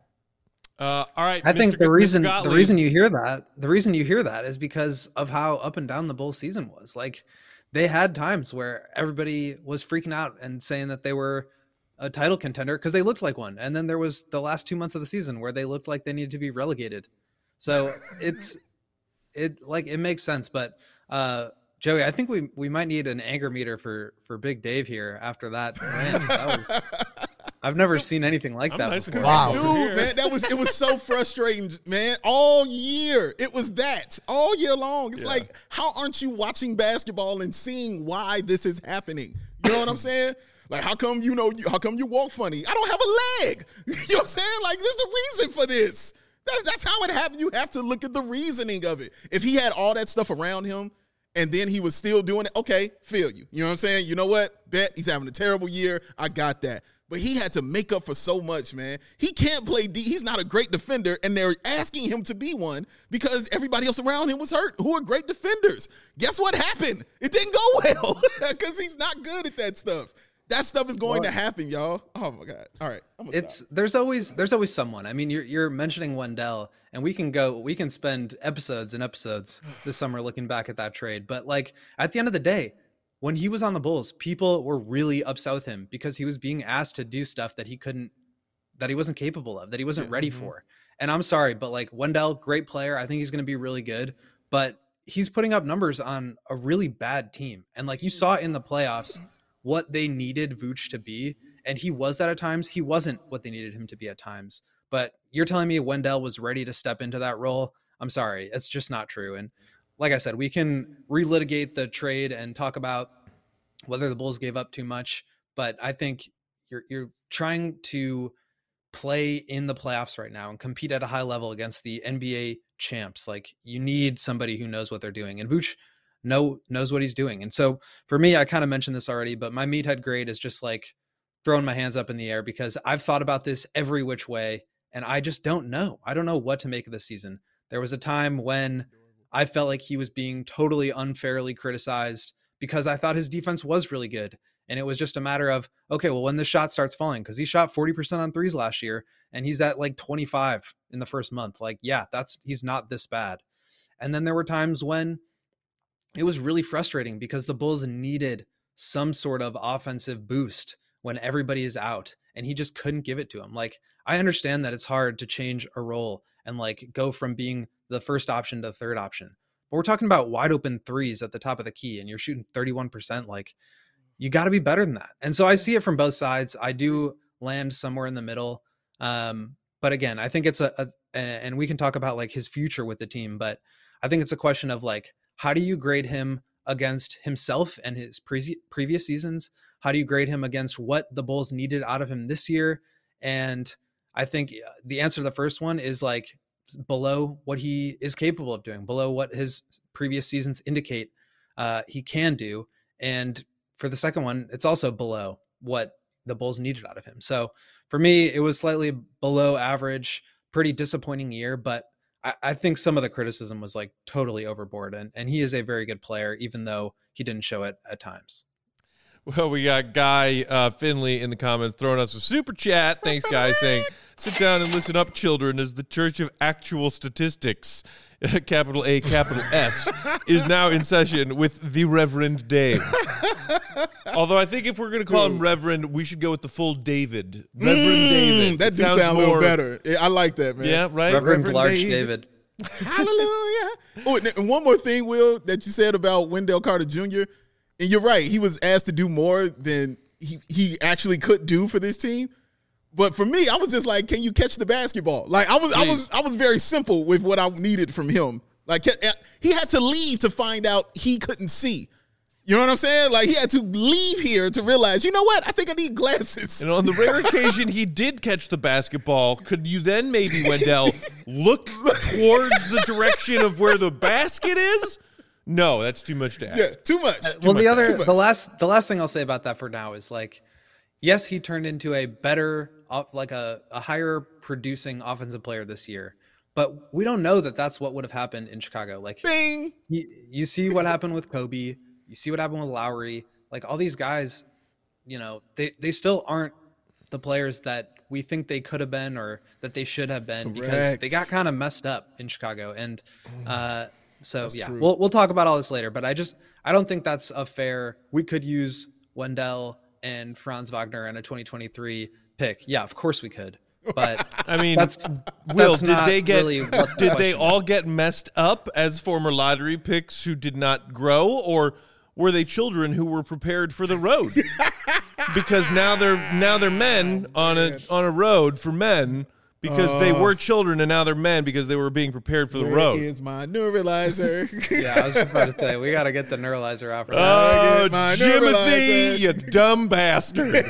Speaker 1: Uh, all right.
Speaker 3: I think
Speaker 1: Mister
Speaker 3: the
Speaker 1: G-
Speaker 3: reason
Speaker 1: Mister
Speaker 3: the
Speaker 1: Gottlieb.
Speaker 3: reason you hear that the reason you hear that is because of how up and down the Bulls season was. Like they had times where everybody was freaking out and saying that they were a title contender because they looked like one, and then there was the last two months of the season where they looked like they needed to be relegated. So it's it like it makes sense, but uh, Joey, I think we we might need an anger meter for for Big Dave here after that win. That was, I've never seen anything like
Speaker 1: I'm
Speaker 3: that
Speaker 1: nice
Speaker 3: before.
Speaker 1: and
Speaker 4: Wow.
Speaker 1: calm over
Speaker 2: Dude,
Speaker 1: here.
Speaker 2: man, that was it was so frustrating, man. All year. It was that. All year long. It's
Speaker 1: Yeah.
Speaker 2: like, how aren't you watching basketball and seeing why this is happening? You know what I'm saying? Like, how come you know, how come you walk funny? I don't have a leg. You know what I'm saying? Like, there's a reason for this. That, that's how it happened. You have to look at the reasoning of it. If he had all that stuff around him and then he was still doing it, okay, feel you. You know what I'm saying? You know what? Bet he's having a terrible year. I got that. But he had to make up for so much, man. He can't play D. He's not a great defender, and they're asking him to be one because everybody else around him was hurt, who are great defenders. Guess what happened? It didn't go well because he's not good at that stuff. That stuff is going
Speaker 3: Well,
Speaker 2: to happen, y'all. Oh, my God. All right. I'm gonna
Speaker 3: It's
Speaker 2: stop.
Speaker 3: there's always there's always someone. I mean, you're you're mentioning Wendell, and we can go we can spend episodes and episodes this summer looking back at that trade. But like at the end of the day, when he was on the Bulls, people were really upset with him because he was being asked to do stuff that he couldn't, that he wasn't capable of, that he wasn't ready for. And I'm sorry, but like Wendell, great player. I think he's going to be really good, but he's putting up numbers on a really bad team. And like you saw in the playoffs, what they needed Vooch to be. And he was that at times. He wasn't what they needed him to be at times. But you're telling me Wendell was ready to step into that role? I'm sorry. It's just not true. And like I said, we can relitigate the trade and talk about whether the Bulls gave up too much. But I think you're you're trying to play in the playoffs right now and compete at a high level against the N B A champs. Like you need somebody who knows what they're doing. And Vooch know, knows what he's doing. And so for me, I kind of mentioned this already, but my meathead grade is just like throwing my hands up in the air because I've thought about this every which way. And I just don't know. I don't know what to make of this season. There was a time when I felt like he was being totally unfairly criticized because I thought his defense was really good. And it was just a matter of, okay, well, when the shot starts falling, because he shot forty percent on threes last year and he's at like twenty-five in the first month. Like, yeah, that's, he's not this bad. And then there were times when it was really frustrating because the Bulls needed some sort of offensive boost when everybody is out and he just couldn't give it to him. Like, I understand that it's hard to change a role and like go from being the first option to the third option, but we're talking about wide open threes at the top of the key and you're shooting thirty-one percent. Like, you got to be better than that. And so I see it from both sides. I do land somewhere in the middle. Um, but again, I think it's a, a, and we can talk about like his future with the team, but I think it's a question of like, how do you grade him against himself and his pre- previous seasons? How do you grade him against what the Bulls needed out of him this year? And I think the answer to the first one is like, below what he is capable of doing, below what his previous seasons indicate uh, he can do. And for the second one, it's also below what the Bulls needed out of him. So for me, it was slightly below average, pretty disappointing year, but I, I think some of the criticism was like totally overboard. And, and he is a very good player, even though he didn't show it at times.
Speaker 1: Well, we got Guy uh, Finley in the comments throwing us a super chat. Thanks, Guy, saying, sit down and listen up, children, as the Church of Actual Statistics, capital A, capital S, is now in session with the Reverend Dave. Although I think if we're going to call him Reverend, we should go with the full David. Reverend
Speaker 2: Mm,
Speaker 1: David.
Speaker 2: that
Speaker 1: It
Speaker 2: do
Speaker 1: sounds
Speaker 2: sound a little
Speaker 1: more-
Speaker 2: better. I like that, man.
Speaker 1: Yeah, right?
Speaker 3: Reverend,
Speaker 2: Reverend
Speaker 3: Large
Speaker 2: David.
Speaker 3: David.
Speaker 2: Hallelujah. Oh, and one more thing, Will, that you said about Wendell Carter Junior And you're right. He was asked to do more than he, he actually could do for this team. But for me, I was just like, can you catch the basketball? Like I was, I was, I was very simple with what I needed from him. Like he had to leave to find out he couldn't see. You know what I'm saying? Like he had to leave here to realize, you know what? I think I need glasses.
Speaker 1: And on the rare occasion he did catch the basketball, could you then maybe, Wendell, look towards the direction of where the basket is? No, that's too much to ask.
Speaker 2: Yeah, too much. Too
Speaker 3: well,
Speaker 2: much.
Speaker 3: the other,
Speaker 2: Too
Speaker 3: the
Speaker 2: much.
Speaker 3: last, the last thing I'll say about that for now is like, yes, he turned into a better, uh, like a, a higher producing offensive player this year, but we don't know that that's what would have happened in Chicago. Like,
Speaker 2: Bing.
Speaker 3: you, you see what happened with Kobe, you see what happened with Lowry, like all these guys, you know, they, they still aren't the players that we think they could have been or that they should have been because
Speaker 2: Correct.
Speaker 3: they got kind of messed up in Chicago. And, uh, So
Speaker 2: That's
Speaker 3: yeah,
Speaker 2: true.
Speaker 3: we'll we'll talk about all this later, but I just I don't think that's a fair. We could use Wendell and Franz Wagner in a twenty twenty-three pick. Yeah, of course we could. But
Speaker 1: I mean,
Speaker 3: that's
Speaker 1: Will,
Speaker 3: that's
Speaker 1: did
Speaker 3: not
Speaker 1: they get
Speaker 3: really what the
Speaker 1: did they
Speaker 3: question
Speaker 1: all get messed up as former lottery picks who did not grow, or were they children who were prepared for the road? Because now they're now they're men on a on a road for men because they were children and now they're men because they were being prepared for the
Speaker 2: Where
Speaker 1: road.
Speaker 2: is my neuralizer?
Speaker 3: Yeah, I was about to say we got to get the neuralizer out for that.
Speaker 1: Oh,
Speaker 2: get my
Speaker 1: Jimothy,
Speaker 2: neuralizer.
Speaker 1: you dumb bastard!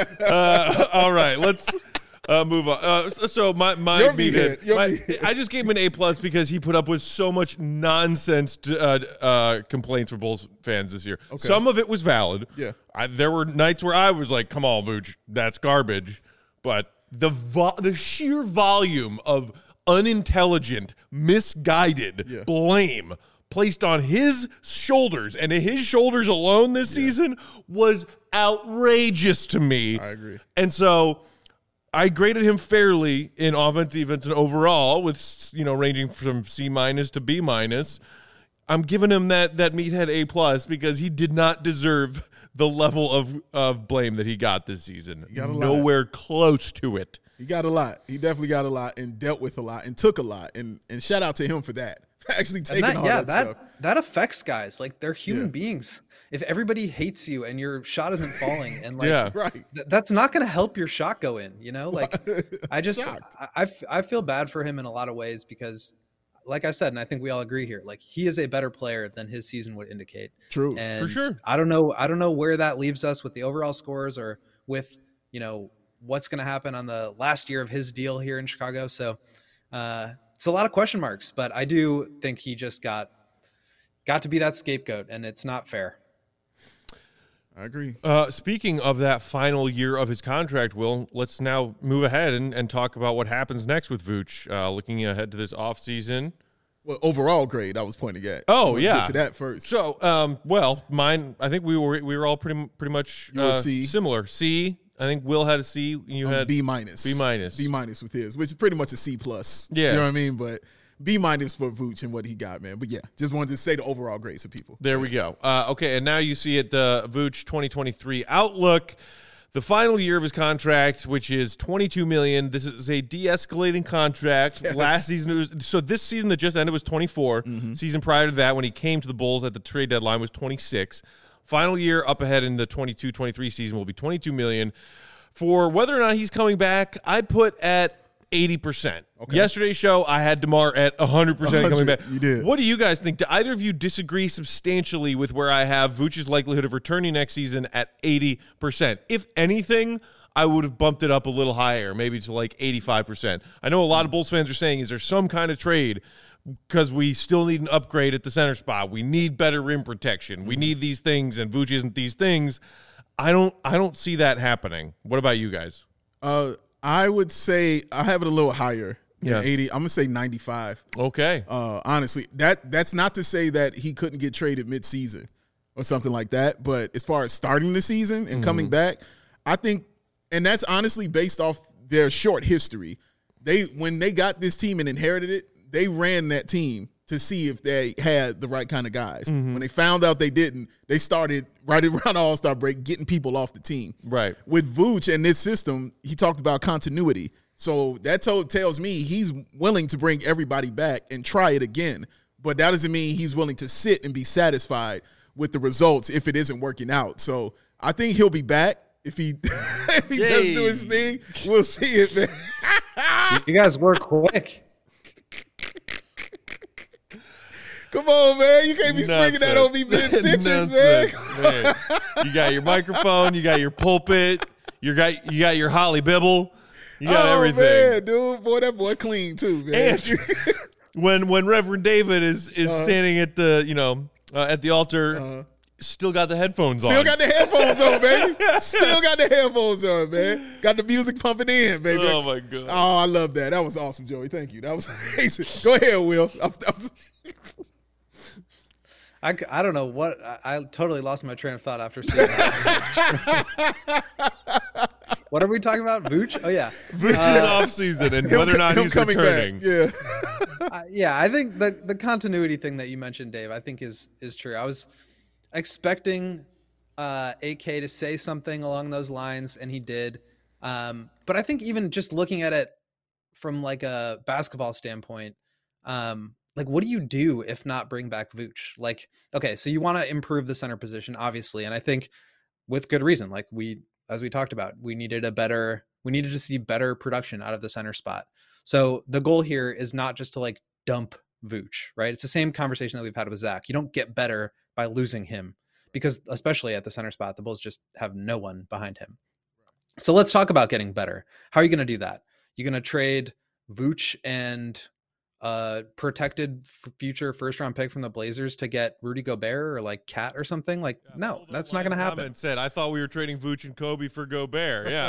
Speaker 1: uh, all right, let's uh, move on. Uh, so, so my my,
Speaker 2: Your
Speaker 1: meathead-
Speaker 2: meathead, your
Speaker 1: my-
Speaker 2: meathead.
Speaker 1: I just gave him an A plus because he put up with so much nonsense to, uh, uh, complaints from Bulls fans this year. Some of it was valid.
Speaker 2: Yeah.
Speaker 1: I, there were nights where I was like, "Come on, Vooch, that's garbage," but the vo- the sheer volume of unintelligent, misguided
Speaker 2: Yeah.
Speaker 1: blame placed on his shoulders and his shoulders alone this season was outrageous to me.
Speaker 2: I agree.
Speaker 1: And so I graded him fairly in offense, defense, and overall, with you know ranging from C minus to B minus. I'm giving him that that meathead A plus because he did not deserve the level of of blame that he got this season.
Speaker 2: got a lot.
Speaker 1: Nowhere close to it.
Speaker 2: He got a lot. He definitely got a lot and dealt with a lot and took a lot. And and shout out to him for that. Actually taking
Speaker 3: And that,
Speaker 2: all
Speaker 3: yeah,
Speaker 2: that,
Speaker 3: that
Speaker 2: stuff.
Speaker 3: that affects guys. Like they're human
Speaker 2: Yeah.
Speaker 3: beings. If everybody hates you and your shot isn't falling, and like
Speaker 1: Yeah.
Speaker 2: Right.
Speaker 3: th- that's not going to help your shot go in. You know, like I just
Speaker 2: Shocked.
Speaker 3: I, I f- I feel bad for him in a lot of ways because, like I said, and I think we all agree here, like he is a better player than his season would indicate.
Speaker 2: True.
Speaker 3: And
Speaker 1: sure.
Speaker 3: I don't know. I don't know where that leaves us with the overall scores or with you know what's going to happen on the last year of his deal here in Chicago. So uh, it's a lot of question marks, but I do think he just got got to be that scapegoat, and it's not fair.
Speaker 2: I agree.
Speaker 1: Uh, speaking of that final year of his contract, Will, let's now move ahead and, and talk about what happens next with Vooch. Uh, looking ahead to this offseason.
Speaker 2: Well, overall grade I was pointing at.
Speaker 1: Oh,
Speaker 2: Let's
Speaker 1: yeah.
Speaker 2: Get to that first.
Speaker 1: So, um, well, mine. I think we were we were all pretty pretty much
Speaker 2: You were
Speaker 1: uh,
Speaker 2: C.
Speaker 1: similar. C. I think Will had a C. You
Speaker 2: Um,
Speaker 1: had
Speaker 2: B minus.
Speaker 1: B minus.
Speaker 2: B minus with his, which is pretty much a C plus.
Speaker 1: Yeah.
Speaker 2: You know what I mean? But B minus for Vooch and what he got, man. But yeah, just wanted to say the overall grades for people.
Speaker 1: There we go. Uh, okay, and now you see it, the Vooch twenty twenty-three outlook. The final year of his contract, which is twenty-two million dollars. This is a de-escalating contract.
Speaker 2: Yes.
Speaker 1: Last season, it was, so this season that just ended was twenty-four.
Speaker 2: Mm-hmm.
Speaker 1: Season prior to that, when he came to the Bulls at the trade deadline, was twenty-six. Final year up ahead in the twenty-two twenty-three season will be twenty-two million dollars. For whether or not he's coming back, I put at eighty percent. Okay. Yesterday's show, I had DeMar at one hundred percent coming back.
Speaker 2: You did.
Speaker 1: What do you guys think? Do either of you disagree substantially with where I have Vooch's likelihood of returning next season at eighty percent? If anything, I would have bumped it up a little higher, maybe to like eighty-five percent. I know a lot of Bulls fans are saying, is there some kind of trade because we still need an upgrade at the center spot? We need better rim protection. We need these things, and Vooch isn't these things. I don't I don't see that happening. What about you guys?
Speaker 2: Uh, I would say I have it a little higher.
Speaker 1: Yeah.
Speaker 2: eighty. I'm gonna say ninety-five.
Speaker 1: Okay.
Speaker 2: Uh, honestly, that that's not to say that he couldn't get traded mid-season or something like that. But as far as starting the season and mm-hmm. coming back, I think, and that's honestly based off their short history. They when they got this team and inherited it, they ran that team to see if they had the right kind of guys. Mm-hmm. When they found out they didn't, they started right around All-Star break getting people off the team.
Speaker 1: Right.
Speaker 2: With Vooch and this system, he talked about continuity. So that told, tells me he's willing to bring everybody back and try it again. But that doesn't mean he's willing to sit and be satisfied with the results if it isn't working out. So I think he'll be back. If he if he Yay. does do his thing, we'll see it, man.
Speaker 3: You guys work quick.
Speaker 2: Come on, man. You can't be springing that on me mid-sentence, man.
Speaker 1: man. You got your microphone. You got your pulpit. You got you got your Holly Bibble. You got
Speaker 2: oh,
Speaker 1: everything.
Speaker 2: Man, dude. Boy, that boy clean, too, man.
Speaker 1: And when when Reverend David is, is uh-huh. standing at the, you know, uh, at the altar, uh-huh. still got the headphones
Speaker 2: still
Speaker 1: on.
Speaker 2: Still got the headphones on, baby. Still got the headphones on, man. Got the music pumping in, baby.
Speaker 1: Oh, my God.
Speaker 2: Oh, I love that. That was awesome, Joey. Thank you. That was amazing. Go ahead, Will. I, I was...
Speaker 3: I, I don't know what I, I totally lost my train of thought after seeing that. What are we talking about? Vooch? Oh yeah,
Speaker 1: Vooch uh, is off season and whether or not he's returning.
Speaker 2: Back. Yeah,
Speaker 3: uh, yeah. I think the the continuity thing that you mentioned, Dave, I think is is true. I was expecting uh, A K to say something along those lines, and he did. Um, but I think even just looking at it from like a basketball standpoint. Um, Like, what do you do if not bring back Vooch? Like, okay, so you want to improve the center position, obviously. And I think with good reason, like we, as we talked about, we needed a better, we needed to see better production out of the center spot. So the goal here is not just to like dump Vooch, right? It's the same conversation that we've had with Zach. You don't get better by losing him because especially at the center spot, the Bulls just have no one behind him. So let's talk about getting better. How are you going to do that? You're going to trade Vooch and uh protected f- future first round pick from the Blazers to get Rudy Gobert or like Cat or something like yeah, no that's not gonna happen.
Speaker 1: Said I thought we were trading Vooch and Kobe for Gobert. Yeah.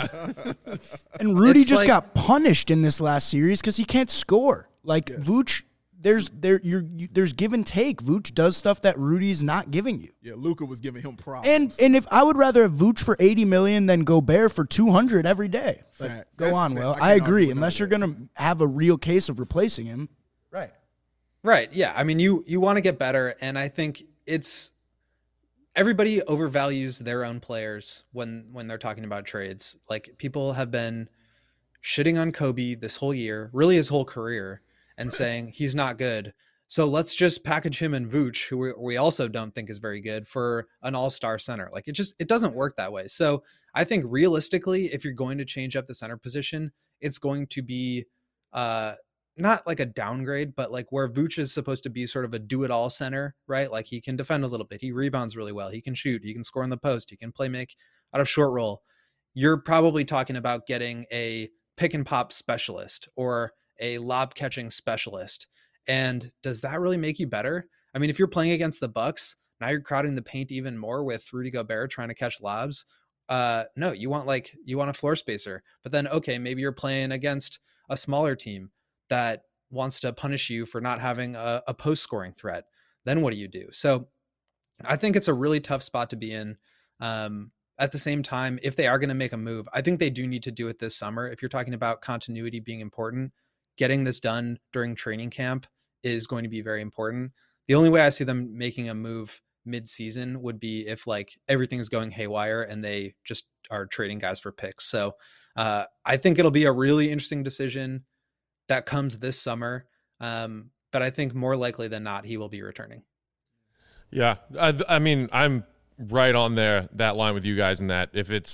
Speaker 4: And Rudy
Speaker 3: it's
Speaker 4: just
Speaker 3: like,
Speaker 4: got punished in this last series because he can't score. Like yes. Vooch, there's there you're you, there's give and take. Vooch does stuff that Rudy's not giving you.
Speaker 2: Yeah, Luka was giving him problems.
Speaker 4: And and if I would rather have Vooch for eighty million than Gobert for two hundred every day. Like, go on, Will. I, I agree. Unless you're gonna have a real case of replacing him.
Speaker 3: Right. Right. Yeah. I mean, you, you want to get better. And I think it's everybody overvalues their own players when, when they're talking about trades. Like people have been shitting on Kobe this whole year, really his whole career and saying he's not good. So let's just package him and Vooch, who we, we also don't think is very good, for an all-star center. Like it just, it doesn't work that way. So I think realistically, if you're going to change up the center position, it's going to be, uh, not like a downgrade, but like where Vooch is supposed to be sort of a do-it-all center, right? Like he can defend a little bit. He rebounds really well. He can shoot. He can score in the post. He can play make out of short roll. You're probably talking about getting a pick and pop specialist or a lob catching specialist. And does that really make you better? I mean, if you're playing against the Bucks, now you're crowding the paint even more with Rudy Gobert trying to catch lobs. Uh, no, you want like, you want a floor spacer, but then, okay, maybe you're playing against a smaller team that wants to punish you for not having a, a post scoring threat. Then what do you do? So I think it's a really tough spot to be in. Um, at the same time, if they are going to make a move, I think they do need to do it this summer. If you're talking about continuity being important, getting this done during training camp is going to be very important. The only way I see them making a move mid-season would be if like everything's going haywire and they just are trading guys for picks. So uh, I think it'll be a really interesting decision that comes this summer. Um, but I think more likely than not, he will be returning.
Speaker 1: Yeah. I, I mean, I'm right on there, that line with you guys in that if it's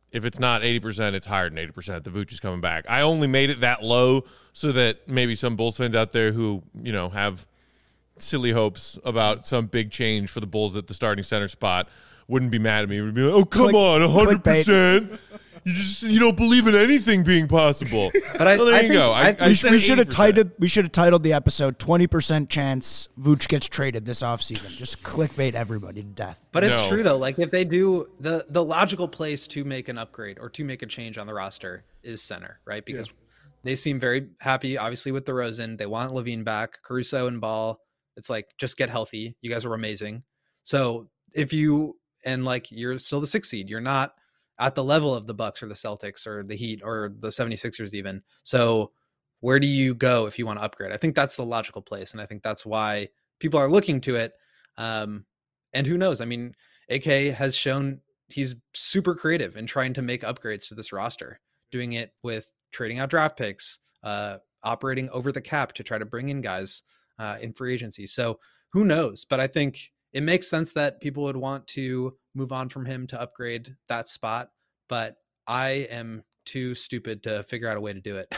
Speaker 1: if it's not eighty percent, it's higher than eighty percent. The Vooch is coming back. I only made it that low so that maybe some Bulls fans out there who, you know, have silly hopes about some big change for the Bulls at the starting center spot wouldn't be mad at me. Would be like, oh, come
Speaker 4: Click,
Speaker 1: on, one hundred percent. You just you don't believe in anything being possible.
Speaker 3: But I,
Speaker 1: well, there
Speaker 3: I
Speaker 1: you
Speaker 3: think,
Speaker 1: go. I,
Speaker 3: I,
Speaker 1: I
Speaker 4: we,
Speaker 1: said
Speaker 4: we should have
Speaker 1: eighty percent.
Speaker 4: titled we should have titled the episode twenty percent chance Vooch gets traded this offseason. Just clickbait everybody to death.
Speaker 3: But it's
Speaker 1: No.
Speaker 3: true though. Like if they do the the logical place to make an upgrade or to make a change on the roster is center, right? Because yeah. they seem very happy, obviously, with DeRozan. They want Levine back, Caruso and Ball. It's like just get healthy. You guys were amazing. So if you and like you're still the sixth seed, you're not at the level of the Bucks or the Celtics or the Heat or the seventy-sixers even. So where do you go if you want to upgrade? I think that's the logical place. And I think that's why people are looking to it. Um, and who knows? I mean, A K has shown he's super creative in trying to make upgrades to this roster, doing it with trading out draft picks, uh, operating over the cap to try to bring in guys uh, in free agency. So who knows? But I think it makes sense that people would want to move on from him to upgrade that spot, but I am too stupid to figure out a way to do it.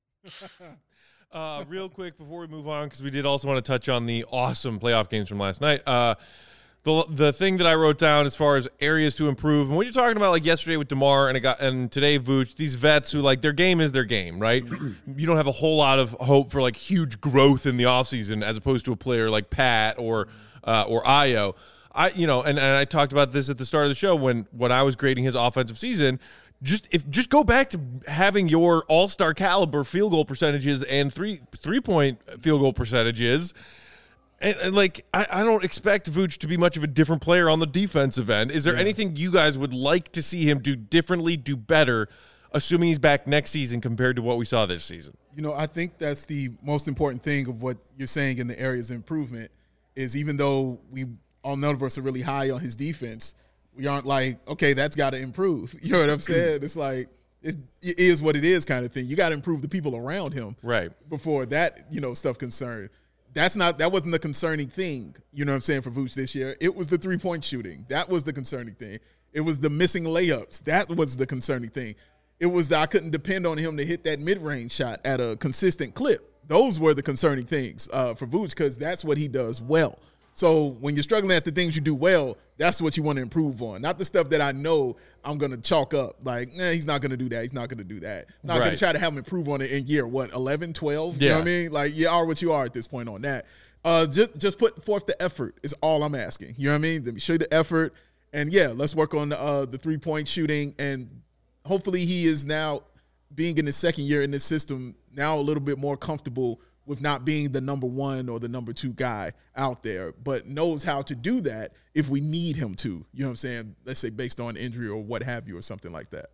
Speaker 1: uh, real quick before we move on, because we did also want to touch on the awesome playoff games from last night. Uh, the the thing that I wrote down as far as areas to improve, and what you're talking about, like yesterday with DeMar and it got, and today Vooch, these vets who like their game is their game, right? You don't have a whole lot of hope for like huge growth in the offseason as opposed to a player like Pat or uh, or Ayo. I, you know, and, and I talked about this at the start of the show when, when I was grading his offensive season. Just if just go back to having your all-star caliber field goal percentages and three three point field goal percentages, and, and like I, I don't expect Vooch to be much of a different player on the defensive end. Is there yeah. anything you guys would like to see him do differently, do better, assuming he's back next season compared to what we saw this season?
Speaker 2: You know, I think that's the most important thing of what you're saying in the areas of improvement is even though we. all none of us are really high on his defense, we aren't like, okay, that's got to improve. You know what I'm saying? It's like, it's, it is what it is kind of thing. You got to improve the people around him
Speaker 1: right
Speaker 2: before that, you know, stuff concerned. That's not, that wasn't the concerning thing, you know what I'm saying, for Vooch this year. It was the three-point shooting. That was the concerning thing. It was the missing layups. That was the concerning thing. It was that I couldn't depend on him to hit that mid-range shot at a consistent clip. Those were the concerning things uh, for Vooch because that's what he does well. So when you're struggling at the things you do well, that's what you want to improve on. Not the stuff that I know I'm going to chalk up. Like, eh, he's not going to do that. He's not going to do that. I'm not right. going to try to have him improve on it in year, what, eleven, twelve? Yeah. You know what I mean? Like, you are what you are at this point on that. Uh, just, just put forth the effort is all I'm asking. You know what I mean? Let me show you the effort. And, yeah, let's work on the, uh, the three-point shooting. And hopefully he is now, being in his second year in this system, now a little bit more comfortable with not being the number one or the number two guy out there, but knows how to do that if we need him to, you know what I'm saying? Let's say based on injury or what have you or something like that.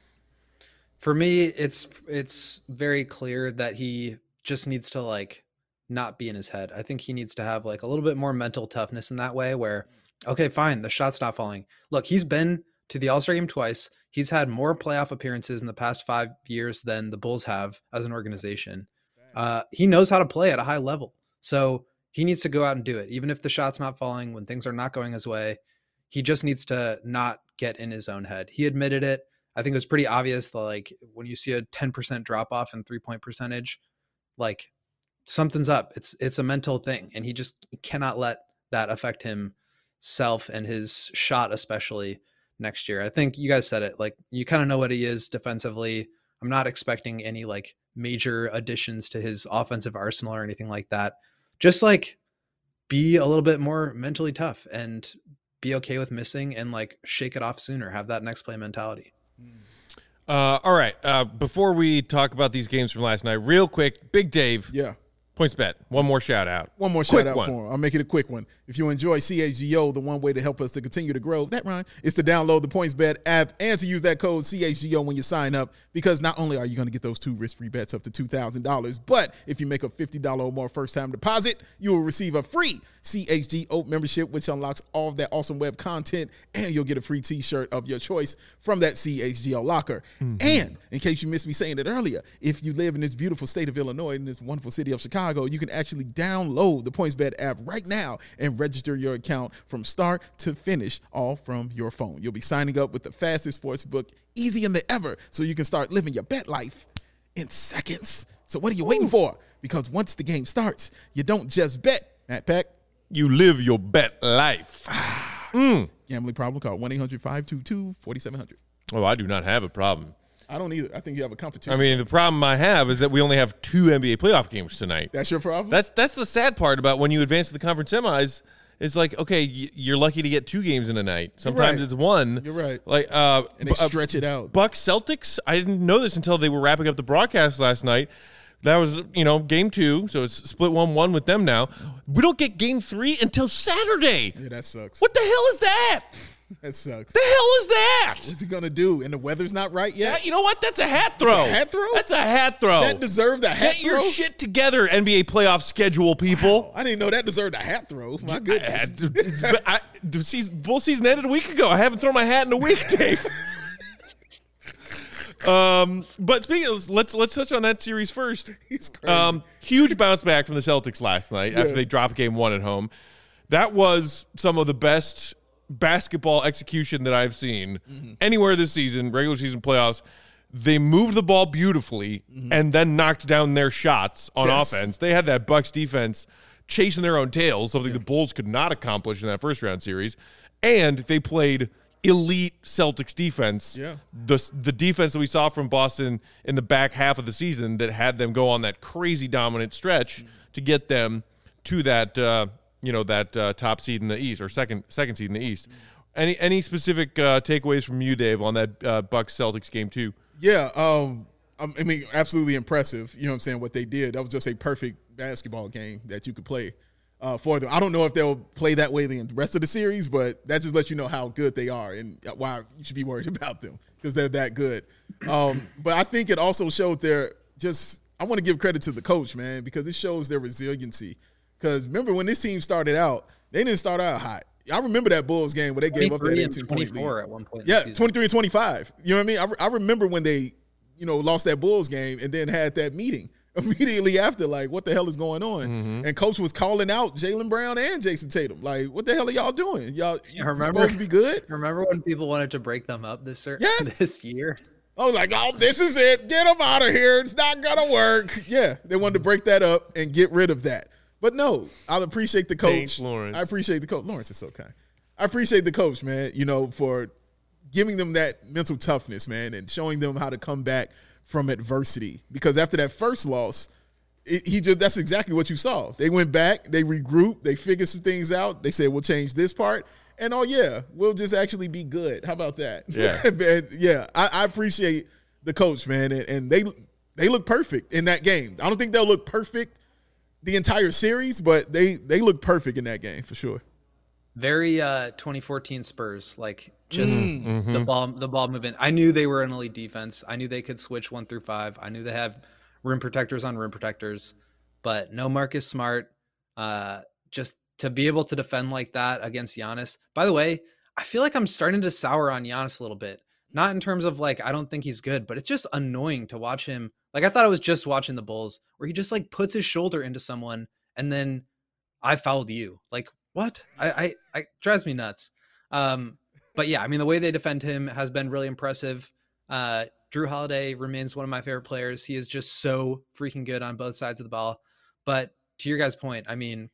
Speaker 3: For me, it's it's very clear that he just needs to like not be in his head. I think he needs to have like a little bit more mental toughness in that way where, okay, fine, the shot's not falling. Look, he's been to the All-Star game twice. He's had more playoff appearances in the past five years than the Bulls have as an organization. Uh, he knows how to play at a high level. So he needs to go out and do it. Even if the shot's not falling, when things are not going his way, he just needs to not get in his own head. He admitted it. I think it was pretty obvious that like when you see a ten percent drop off in three point percentage, like something's up. It's, it's a mental thing. And he just cannot let that affect himself and his shot, especially next year. I think you guys said it, like you kind of know what he is defensively. I'm not expecting any like major additions to his offensive arsenal or anything like that. Just like be a little bit more mentally tough and be okay with missing and like shake it off sooner. Have that next play mentality.
Speaker 1: Uh, all right. Uh, before we talk about these games from last night, real quick, Big Dave.
Speaker 2: Yeah.
Speaker 1: PointsBet. One more shout out.
Speaker 2: One more quick shout out one. for him. I'll make it a quick one. If you enjoy C H G O, the one way to help us to continue to grow, that rhyme, is to download the PointsBet app and to use that code C H G O when you sign up, because not only are you going to get those two risk-free bets up to two thousand dollars, but if you make a fifty dollars or more first-time deposit, you will receive a free C H G O membership, which unlocks all of that awesome web content, and you'll get a free t-shirt of your choice from that C H G O locker. Mm-hmm. And in case you missed me saying it earlier, if you live in this beautiful state of Illinois, in this wonderful city of Chicago, Chicago, you can actually download the PointsBet app right now and register your account from start to finish, all from your phone. You'll be signing up with the fastest sports book, easy in the ever, so you can start living your bet life in seconds. So what are you waiting for? Because once the game starts, you don't just bet, Matt Peck.
Speaker 1: You live your bet life. mm.
Speaker 2: Gambling problem, call one eight hundred five two two four seven zero zero.
Speaker 1: Oh, I do not have a problem.
Speaker 2: I don't either. I think you have a competition.
Speaker 1: I mean, the problem I have is that we only have two N B A playoff games tonight.
Speaker 2: That's your problem?
Speaker 1: That's that's the sad part about when you advance to the conference semis. It's like, okay, you're lucky to get two games in a night. Sometimes
Speaker 2: right.
Speaker 1: it's one.
Speaker 2: You're right.
Speaker 1: Like, uh,
Speaker 2: and they stretch it out.
Speaker 1: Bucks Celtics, I didn't know this until they were wrapping up the broadcast last night. That was, you know, game two, so it's split one one with them now. We don't get game three until Saturday.
Speaker 2: Yeah, that sucks.
Speaker 1: What the hell is that?
Speaker 2: That sucks.
Speaker 1: The hell is that?
Speaker 2: What's he going to do? And the weather's not right yet?
Speaker 1: That, you know what? That's a hat throw.
Speaker 2: That's a hat throw?
Speaker 1: That's a hat throw.
Speaker 2: That deserved a hat
Speaker 1: Get
Speaker 2: throw?
Speaker 1: your shit together, N B A playoff schedule, people.
Speaker 2: Wow. I didn't know that deserved a hat throw. My goodness.
Speaker 1: I, I, the season, bull season ended a week ago. I haven't thrown my hat in a week, Dave. Um, but speaking of, let's let's touch on that series first.
Speaker 2: He's crazy.
Speaker 1: Um, huge bounce back from the Celtics last night
Speaker 2: Yeah.
Speaker 1: after they dropped game one at home. That was some of the best basketball execution that I've seen mm-hmm. anywhere this season, regular season playoffs. They moved the ball beautifully mm-hmm. and then knocked down their shots on
Speaker 2: yes.
Speaker 1: offense. They had that Bucks defense chasing their own tails, something yeah. the Bulls could not accomplish in that first round series. And they played elite Celtics defense.
Speaker 2: Yeah.
Speaker 1: The the defense that we saw from Boston in the back half of the season that had them go on that crazy dominant stretch mm-hmm. to get them to that uh, you know that uh, top seed in the East or second second seed in the East. Mm-hmm. Any any specific uh, takeaways from you, Dave, on that uh, Bucks Celtics game two?
Speaker 2: Yeah, um, I mean, absolutely impressive. You know what I'm saying? What they did, that was just a perfect basketball game that you could play. Uh, for them. I don't know if they'll play that way the rest of the series, but that just lets you know how good they are and why you should be worried about them because they're that good. Um, but I think it also showed their just – I want to give credit to the coach, man, because it shows their resiliency. Because remember when this team started out, they didn't start out hot. I remember that Bulls game where they gave up that eighteen-point lead.
Speaker 3: At one point
Speaker 2: yeah, twenty-three and twenty-five. You know what I mean? I, re- I remember when they, you know, lost that Bulls game and then had that meeting immediately after, like, what the hell is going on? Mm-hmm. And coach was calling out Jaylen Brown and Jason Tatum. Like, what the hell are y'all doing? Y'all
Speaker 3: yeah, remember,
Speaker 2: supposed to be good?
Speaker 3: Remember when people wanted to break them up this,
Speaker 2: yes.
Speaker 3: this year?
Speaker 2: I was like, oh, this is it. Get them out of here. It's not going to work. Yeah, they wanted to break that up and get rid of that. But no, I appreciate the coach.
Speaker 1: Thanks, Lawrence.
Speaker 2: I appreciate the coach. Lawrence is so kind. I appreciate the coach, man, you know, for giving them that mental toughness, man, and showing them how to come back from adversity. Because after that first loss, it, he just that's exactly what you saw. They went back, they regrouped, they figured some things out. They said, we'll change this part. And, oh, yeah, we'll just actually be good. How about that?
Speaker 1: Yeah.
Speaker 2: man, yeah, I, I appreciate the coach, man, and, and they they look perfect in that game. I don't think they'll look perfect the entire series, but they, they look perfect in that game for sure.
Speaker 3: Very uh, twenty fourteen Spurs, like just
Speaker 1: mm-hmm.
Speaker 3: the ball, the ball movement. I knew they were an elite defense. I knew they could switch one through five. I knew they have rim protectors on rim protectors, but no Marcus Smart. Uh, just to be able to defend like that against Giannis. By the way, I feel like I'm starting to sour on Giannis a little bit. Not in terms of like I don't think he's good, but it's just annoying to watch him. Like I thought I was just watching the Bulls, where he just like puts his shoulder into someone and then I fouled you. Like. What? I, I, I drives me nuts. Um, but yeah, I mean, the way they defend him has been really impressive. Uh, Drew Holiday remains one of my favorite players. He is just so freaking good on both sides of the ball. But to your guys' point, I mean,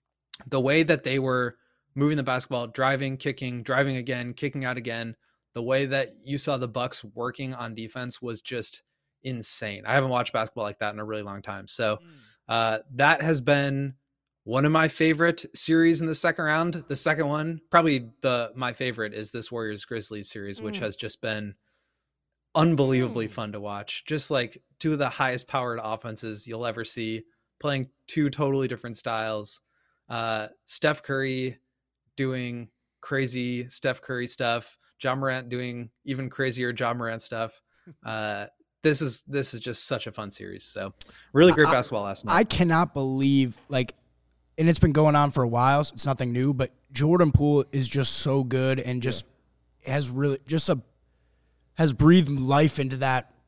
Speaker 3: the way that they were moving the basketball, driving, kicking, driving again, kicking out again, the way that you saw the Bucks working on defense was just insane. I haven't watched basketball like that in a really long time. So uh, that has been one of my favorite series in the second round. The second one, probably the my favorite, is this Warriors Grizzlies series, which mm. has just been unbelievably mm. fun to watch. Just like two of the highest powered offenses you'll ever see, playing two totally different styles. Uh, Steph Curry doing crazy Steph Curry stuff. Ja Morant doing even crazier Ja Morant stuff. Uh, this is this is just such a fun series. So really great
Speaker 4: I,
Speaker 3: basketball last night.
Speaker 4: I cannot believe like. And it's been going on for a while, so it's nothing new, but Jordan Poole is just so good and just yeah. has really just a has breathed life into that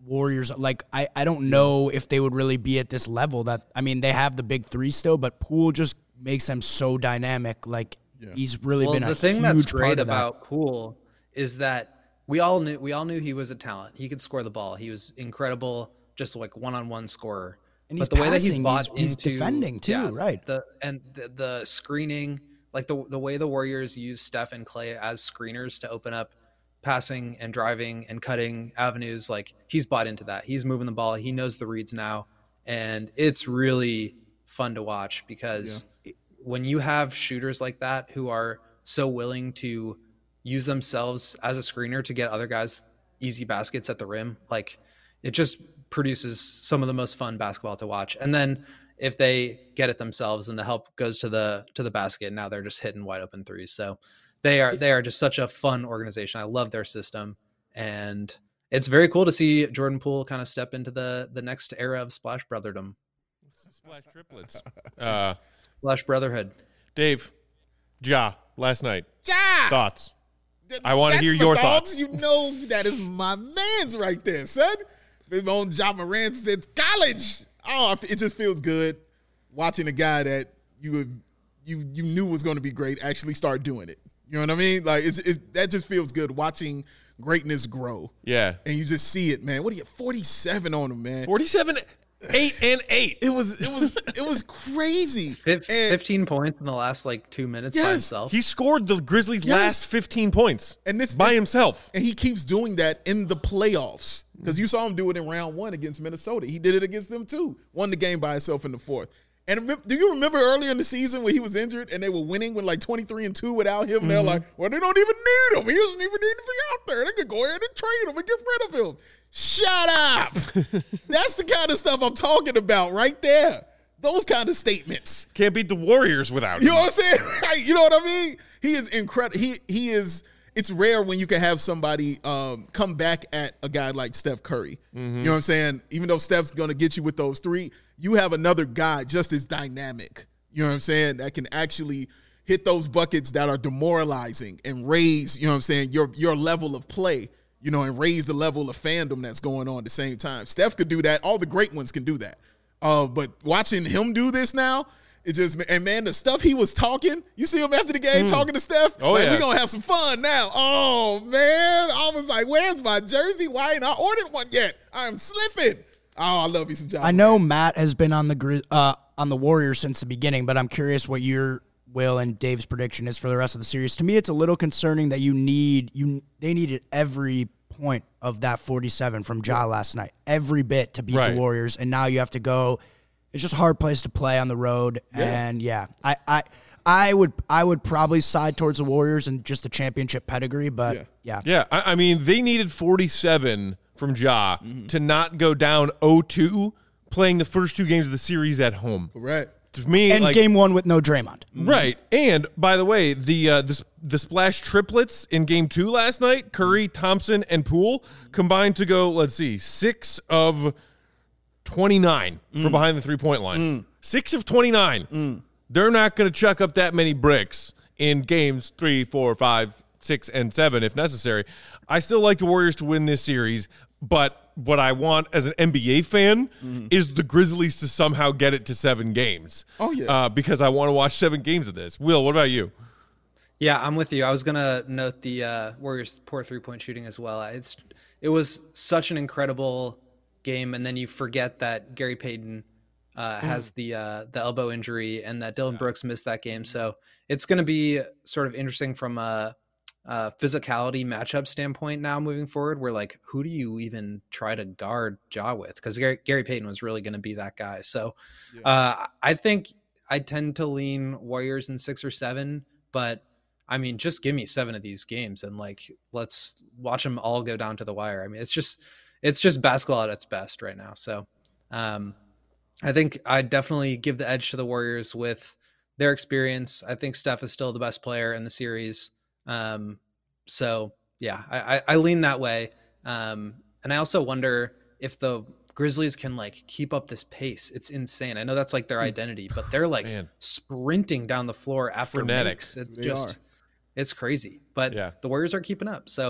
Speaker 4: Warriors, like I, I don't know if they would really be at this level. That I mean, they have the big three still, but Poole just makes them so dynamic. Like yeah. he's really
Speaker 3: well,
Speaker 4: been a
Speaker 3: the thing
Speaker 4: huge
Speaker 3: that's
Speaker 4: part
Speaker 3: great
Speaker 4: of that.
Speaker 3: about Poole is that we all knew we all knew he was a talent. He could score the ball. He was incredible, just like one-on-one scorer.
Speaker 4: And
Speaker 3: but
Speaker 4: he's
Speaker 3: the
Speaker 4: passing,
Speaker 3: way that he's bought
Speaker 4: he's, he's
Speaker 3: into,
Speaker 4: defending too,
Speaker 3: yeah,
Speaker 4: right?
Speaker 3: The and the, the screening, like the the way the Warriors use Steph and Clay as screeners to open up passing and driving and cutting avenues, like he's bought into that. He's moving the ball. He knows the reads now, and it's really fun to watch because yeah. when you have shooters like that who are so willing to use themselves as a screener to get other guys easy baskets at the rim, like it just produces some of the most fun basketball to watch. And then if they get it themselves and the help goes to the to the basket, now they're just hitting wide open threes. So they are they are just such a fun organization. I love their system, and it's very cool to see Jordan Poole kind of step into the the next era of Splash Brotherdom.
Speaker 1: Splash triplets. Uh,
Speaker 3: Splash Brotherhood.
Speaker 1: Dave, Ja, last night.
Speaker 2: Ja!
Speaker 1: Thoughts? I want to hear your thoughts.
Speaker 2: You know that is my man's right there, son. Been on Ja Morant since college. Oh, it just feels good watching a guy that you would, you you knew was going to be great actually start doing it. You know what I mean? Like it's, it's that just feels good watching greatness grow.
Speaker 1: Yeah,
Speaker 2: and you just see it, man. What are you? forty-seven on him, man.
Speaker 1: forty-seven, eight and eight.
Speaker 2: It was it was it was crazy.
Speaker 3: fifteen points in the last like two minutes
Speaker 2: yes,
Speaker 3: by himself.
Speaker 1: He scored the Grizzlies'
Speaker 2: yes.
Speaker 1: last fifteen points,
Speaker 2: and this
Speaker 1: by
Speaker 2: this,
Speaker 1: himself.
Speaker 2: And he keeps doing that in the playoffs. Because you saw him do it in round one against Minnesota. He did it against them too. Won the game by himself in the fourth. And do you remember earlier in the season when he was injured and they were winning with like twenty-three and two without him? Mm-hmm. They're like, well, they don't even need him. He doesn't even need to be out there. They could go ahead and trade him and get rid of him. Shut up. That's the kind of stuff I'm talking about right there. Those kind of statements.
Speaker 1: Can't beat the Warriors without him.
Speaker 2: You know what I'm saying? You know what I mean? He is incredible. He he is. It's rare when you can have somebody um, come back at a guy like Steph Curry. Mm-hmm. You know what I'm saying? Even though Steph's going to get you with those three, you have another guy just as dynamic. You know what I'm saying? That can actually hit those buckets that are demoralizing and raise, you know what I'm saying, your your level of play, you know, and raise the level of fandom that's going on at the same time. Steph could do that. All the great ones can do that. Uh, but watching him do this now, it just, and man, the stuff he was talking, you see him after the game mm. talking to Steph?
Speaker 1: Oh,
Speaker 2: like,
Speaker 1: yeah.
Speaker 2: We're going to have some fun now. Oh, man. I was like, where's my jersey? Why ain't I ordered one yet? I'm slipping. Oh, I love you some John.
Speaker 4: I know Matt has been on the uh, on the Warriors since the beginning, but I'm curious what your, Will, and Dave's prediction is for the rest of the series. To me, it's a little concerning that you need, you they needed every point of that forty-seven from Ja last night, every bit to beat
Speaker 1: right.
Speaker 4: the Warriors, and now you have to go. It's just a hard place to play on the road,
Speaker 2: yeah.
Speaker 4: and yeah, I, I, I would, I would probably side towards the Warriors and just the championship pedigree, but yeah,
Speaker 2: yeah.
Speaker 1: yeah I, I mean, they needed forty-seven from Ja mm-hmm. to not go down oh two playing the first two games of the series at home.
Speaker 2: Correct.
Speaker 1: To me,
Speaker 4: and
Speaker 1: like,
Speaker 4: game one with no Draymond.
Speaker 1: Right, and by the way, the uh, the the splash triplets in game two last night, Curry, Thompson, and Poole combined to go. Let's see, six of twenty-nine mm. from behind the three-point line. Mm. Six of twenty-nine. Mm. They're not going to chuck up that many bricks in games three, four, five, six, and seven if necessary. I still like the Warriors to win this series, but what I want as an N B A fan mm. is the Grizzlies to somehow get it to seven games.
Speaker 2: Oh, yeah.
Speaker 1: Uh, because I want to watch seven games of this. Will, what about you?
Speaker 3: Yeah, I'm with you. I was going to note the uh, Warriors' poor three-point shooting as well. It's It was such an incredible game, and then you forget that Gary Payton uh, mm. has the uh, the elbow injury and that Dylan Brooks missed that game. So it's going to be sort of interesting from a, a physicality matchup standpoint now moving forward. Where like, who do you even try to guard Ja with? Because Gary, Gary Payton was really going to be that guy. So yeah. uh, I think I tend to lean Warriors in six or seven, but I mean, just give me seven of these games and like let's watch them all go down to the wire. I mean, it's just. It's just basketball at its best right now. So um, I think I definitely give the edge to the Warriors with their experience. I think Steph is still the best player in the series. Um, so, yeah, I, I, I lean that way. Um, and I also wonder if the Grizzlies can, like, keep up this pace. It's insane. I know that's, like, their identity, but they're, like,
Speaker 1: Man.
Speaker 3: sprinting down the floor after
Speaker 1: Frenetic.
Speaker 3: makes. It's
Speaker 2: they
Speaker 3: just
Speaker 2: are.
Speaker 3: – it's crazy. But
Speaker 1: yeah.
Speaker 3: the Warriors are keeping up. So,
Speaker 2: yeah.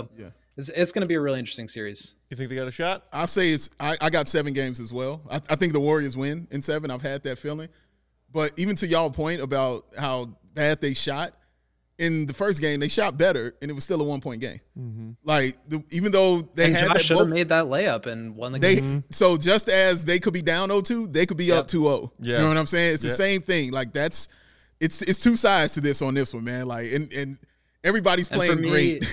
Speaker 3: It's, it's going to be a really interesting series.
Speaker 1: You think they got a shot?
Speaker 2: I'll say it's. I, I got seven games as well. I, I think the Warriors win in seven. I've had that feeling. But even to y'all point about how bad they shot, in the first game they shot better, and it was still a one point game.
Speaker 1: Mm-hmm.
Speaker 2: Like the, even though they
Speaker 3: and
Speaker 2: had
Speaker 3: Josh
Speaker 2: that
Speaker 3: should have
Speaker 2: both,
Speaker 3: made that layup and won the
Speaker 2: they
Speaker 3: game.
Speaker 2: so just as they could be down oh two, they could be
Speaker 3: Yep.
Speaker 2: up two oh.
Speaker 1: Yeah.
Speaker 2: You know what I'm saying? It's
Speaker 1: Yeah.
Speaker 2: the same thing. Like that's it's it's two sides to this on this one, man. Like and and everybody's
Speaker 3: And for
Speaker 2: playing
Speaker 3: me-
Speaker 2: great.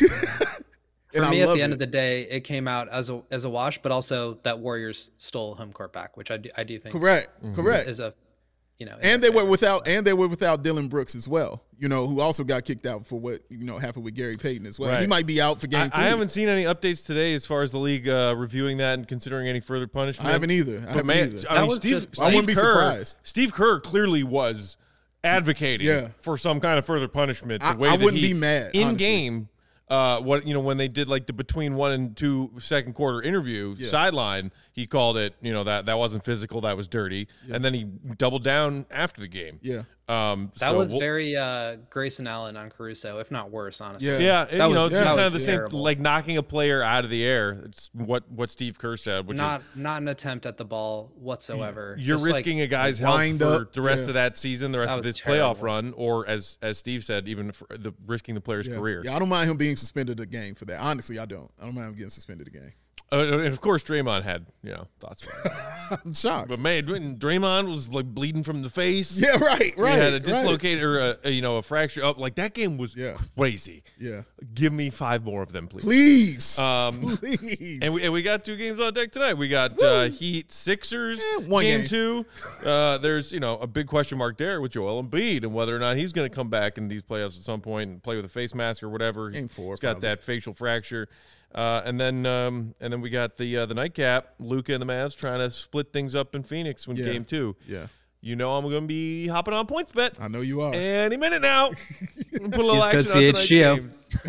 Speaker 3: For
Speaker 2: And
Speaker 3: me,
Speaker 2: I
Speaker 3: at
Speaker 2: love
Speaker 3: the end
Speaker 2: it.
Speaker 3: of the day, it came out as a as a wash, but also that Warriors stole home court back, which I do, I do think
Speaker 2: correct,
Speaker 1: Mm-hmm.
Speaker 2: correct.
Speaker 3: is a, you know,
Speaker 2: And they were without and they were without Dylan Brooks as well. You know, who also got kicked out for what you know happened with Gary Payton as well.
Speaker 1: Right.
Speaker 2: He might be out for game
Speaker 1: I,
Speaker 2: three.
Speaker 1: I haven't seen any updates today as far as the league uh, reviewing that and considering any further punishment.
Speaker 2: I haven't either. I
Speaker 1: But
Speaker 2: haven't
Speaker 1: man,
Speaker 2: either.
Speaker 1: I
Speaker 3: That
Speaker 1: mean,
Speaker 3: was
Speaker 1: Steve,
Speaker 3: just-
Speaker 1: Steve
Speaker 2: I wouldn't be
Speaker 1: Kerr,
Speaker 2: surprised.
Speaker 1: Steve Kerr clearly was advocating
Speaker 2: Yeah.
Speaker 1: for some kind of further punishment. The
Speaker 2: I-
Speaker 1: way
Speaker 2: I
Speaker 1: that
Speaker 2: wouldn't
Speaker 1: he,
Speaker 2: be mad,
Speaker 1: in
Speaker 2: honestly.
Speaker 1: game. Uh, what you know when they did like the between one and two second quarter interview
Speaker 2: Yeah.
Speaker 1: sideline, he called it you know that that wasn't physical, that was dirty, and then he doubled down after the game.
Speaker 2: Yeah.
Speaker 1: Um,
Speaker 3: that
Speaker 1: so
Speaker 3: was
Speaker 1: we'll-
Speaker 3: very uh, Grayson Allen on Caruso, if not worse, honestly.
Speaker 2: Yeah.
Speaker 1: Yeah, and,
Speaker 3: That
Speaker 1: you know,
Speaker 3: was-
Speaker 1: just
Speaker 2: that
Speaker 1: kind of
Speaker 3: was
Speaker 1: the same,
Speaker 3: terrible.
Speaker 1: like knocking a player out of the air. It's what what Steve Kerr said, which
Speaker 3: Not not an attempt at the ball whatsoever.
Speaker 1: is you're
Speaker 3: Just, like,
Speaker 1: risking a guy's health
Speaker 2: wind
Speaker 1: for
Speaker 2: up,
Speaker 1: the rest
Speaker 2: yeah.
Speaker 1: of that season, the rest
Speaker 3: That
Speaker 1: of
Speaker 3: was
Speaker 1: this playoff
Speaker 3: terrible.
Speaker 1: run, or as as Steve said, even for the risking the player's
Speaker 2: Yeah.
Speaker 1: career.
Speaker 2: Yeah, I don't mind him being suspended a game for that. Honestly, I don't. I don't mind him getting suspended a game.
Speaker 1: Uh, and of course, Draymond had you know thoughts about it.
Speaker 2: I'm shocked.
Speaker 1: But man, when Draymond was like bleeding from the face.
Speaker 2: Yeah, right,
Speaker 1: He
Speaker 2: right.
Speaker 1: had a
Speaker 2: right.
Speaker 1: dislocated or a, a, you know a fracture up. Like that game was
Speaker 2: Yeah.
Speaker 1: crazy.
Speaker 2: Yeah.
Speaker 1: Give me five more of them, please.
Speaker 2: Please.
Speaker 1: Um,
Speaker 2: Please.
Speaker 1: And we, and we got two games on deck tonight. We got uh, Heat Sixers
Speaker 2: Eh, one
Speaker 1: game,
Speaker 2: game.
Speaker 1: two. Uh, there's you know a big question mark there with Joel Embiid and whether or not he's going to come back in these playoffs at some point and play with a face mask or whatever.
Speaker 2: Game four,
Speaker 1: He's got
Speaker 2: probably.
Speaker 1: that facial fracture. Uh, and then um, and then we got the uh, the nightcap. Luka and the Mavs trying to split things up in Phoenix in
Speaker 2: Yeah.
Speaker 1: game two.
Speaker 2: yeah,
Speaker 1: You know I'm going to be hopping on points bet.
Speaker 2: I know you are.
Speaker 1: Any minute now. Put a little
Speaker 3: Use
Speaker 1: action
Speaker 3: code
Speaker 1: on tonight's
Speaker 3: C H G O.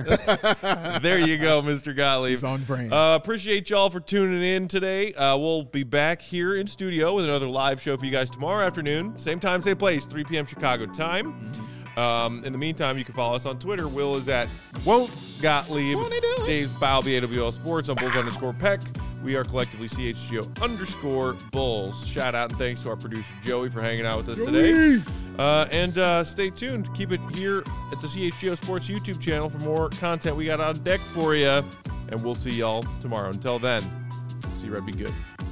Speaker 1: games. There you go, Mister Gottlieb.
Speaker 2: He's on brand.
Speaker 1: Uh, appreciate y'all for tuning in today. Uh, we'll be back here in studio with another live show for you guys tomorrow afternoon. Same time, same place, three p.m. Chicago time. Um, in the meantime, you can follow us on Twitter. Will is at Won't Gottlieb.
Speaker 2: Won't he do it?
Speaker 1: Dave's Balby, A W L Sports on Bulls underscore Peck. We are collectively C H G O underscore Bulls. Shout out and thanks to our producer Joey for hanging out with us today. Uh, and uh, stay tuned. Keep it here at the C H G O Sports YouTube channel for more content we got on deck for you. And we'll see y'all tomorrow. Until then, see you right. Be good.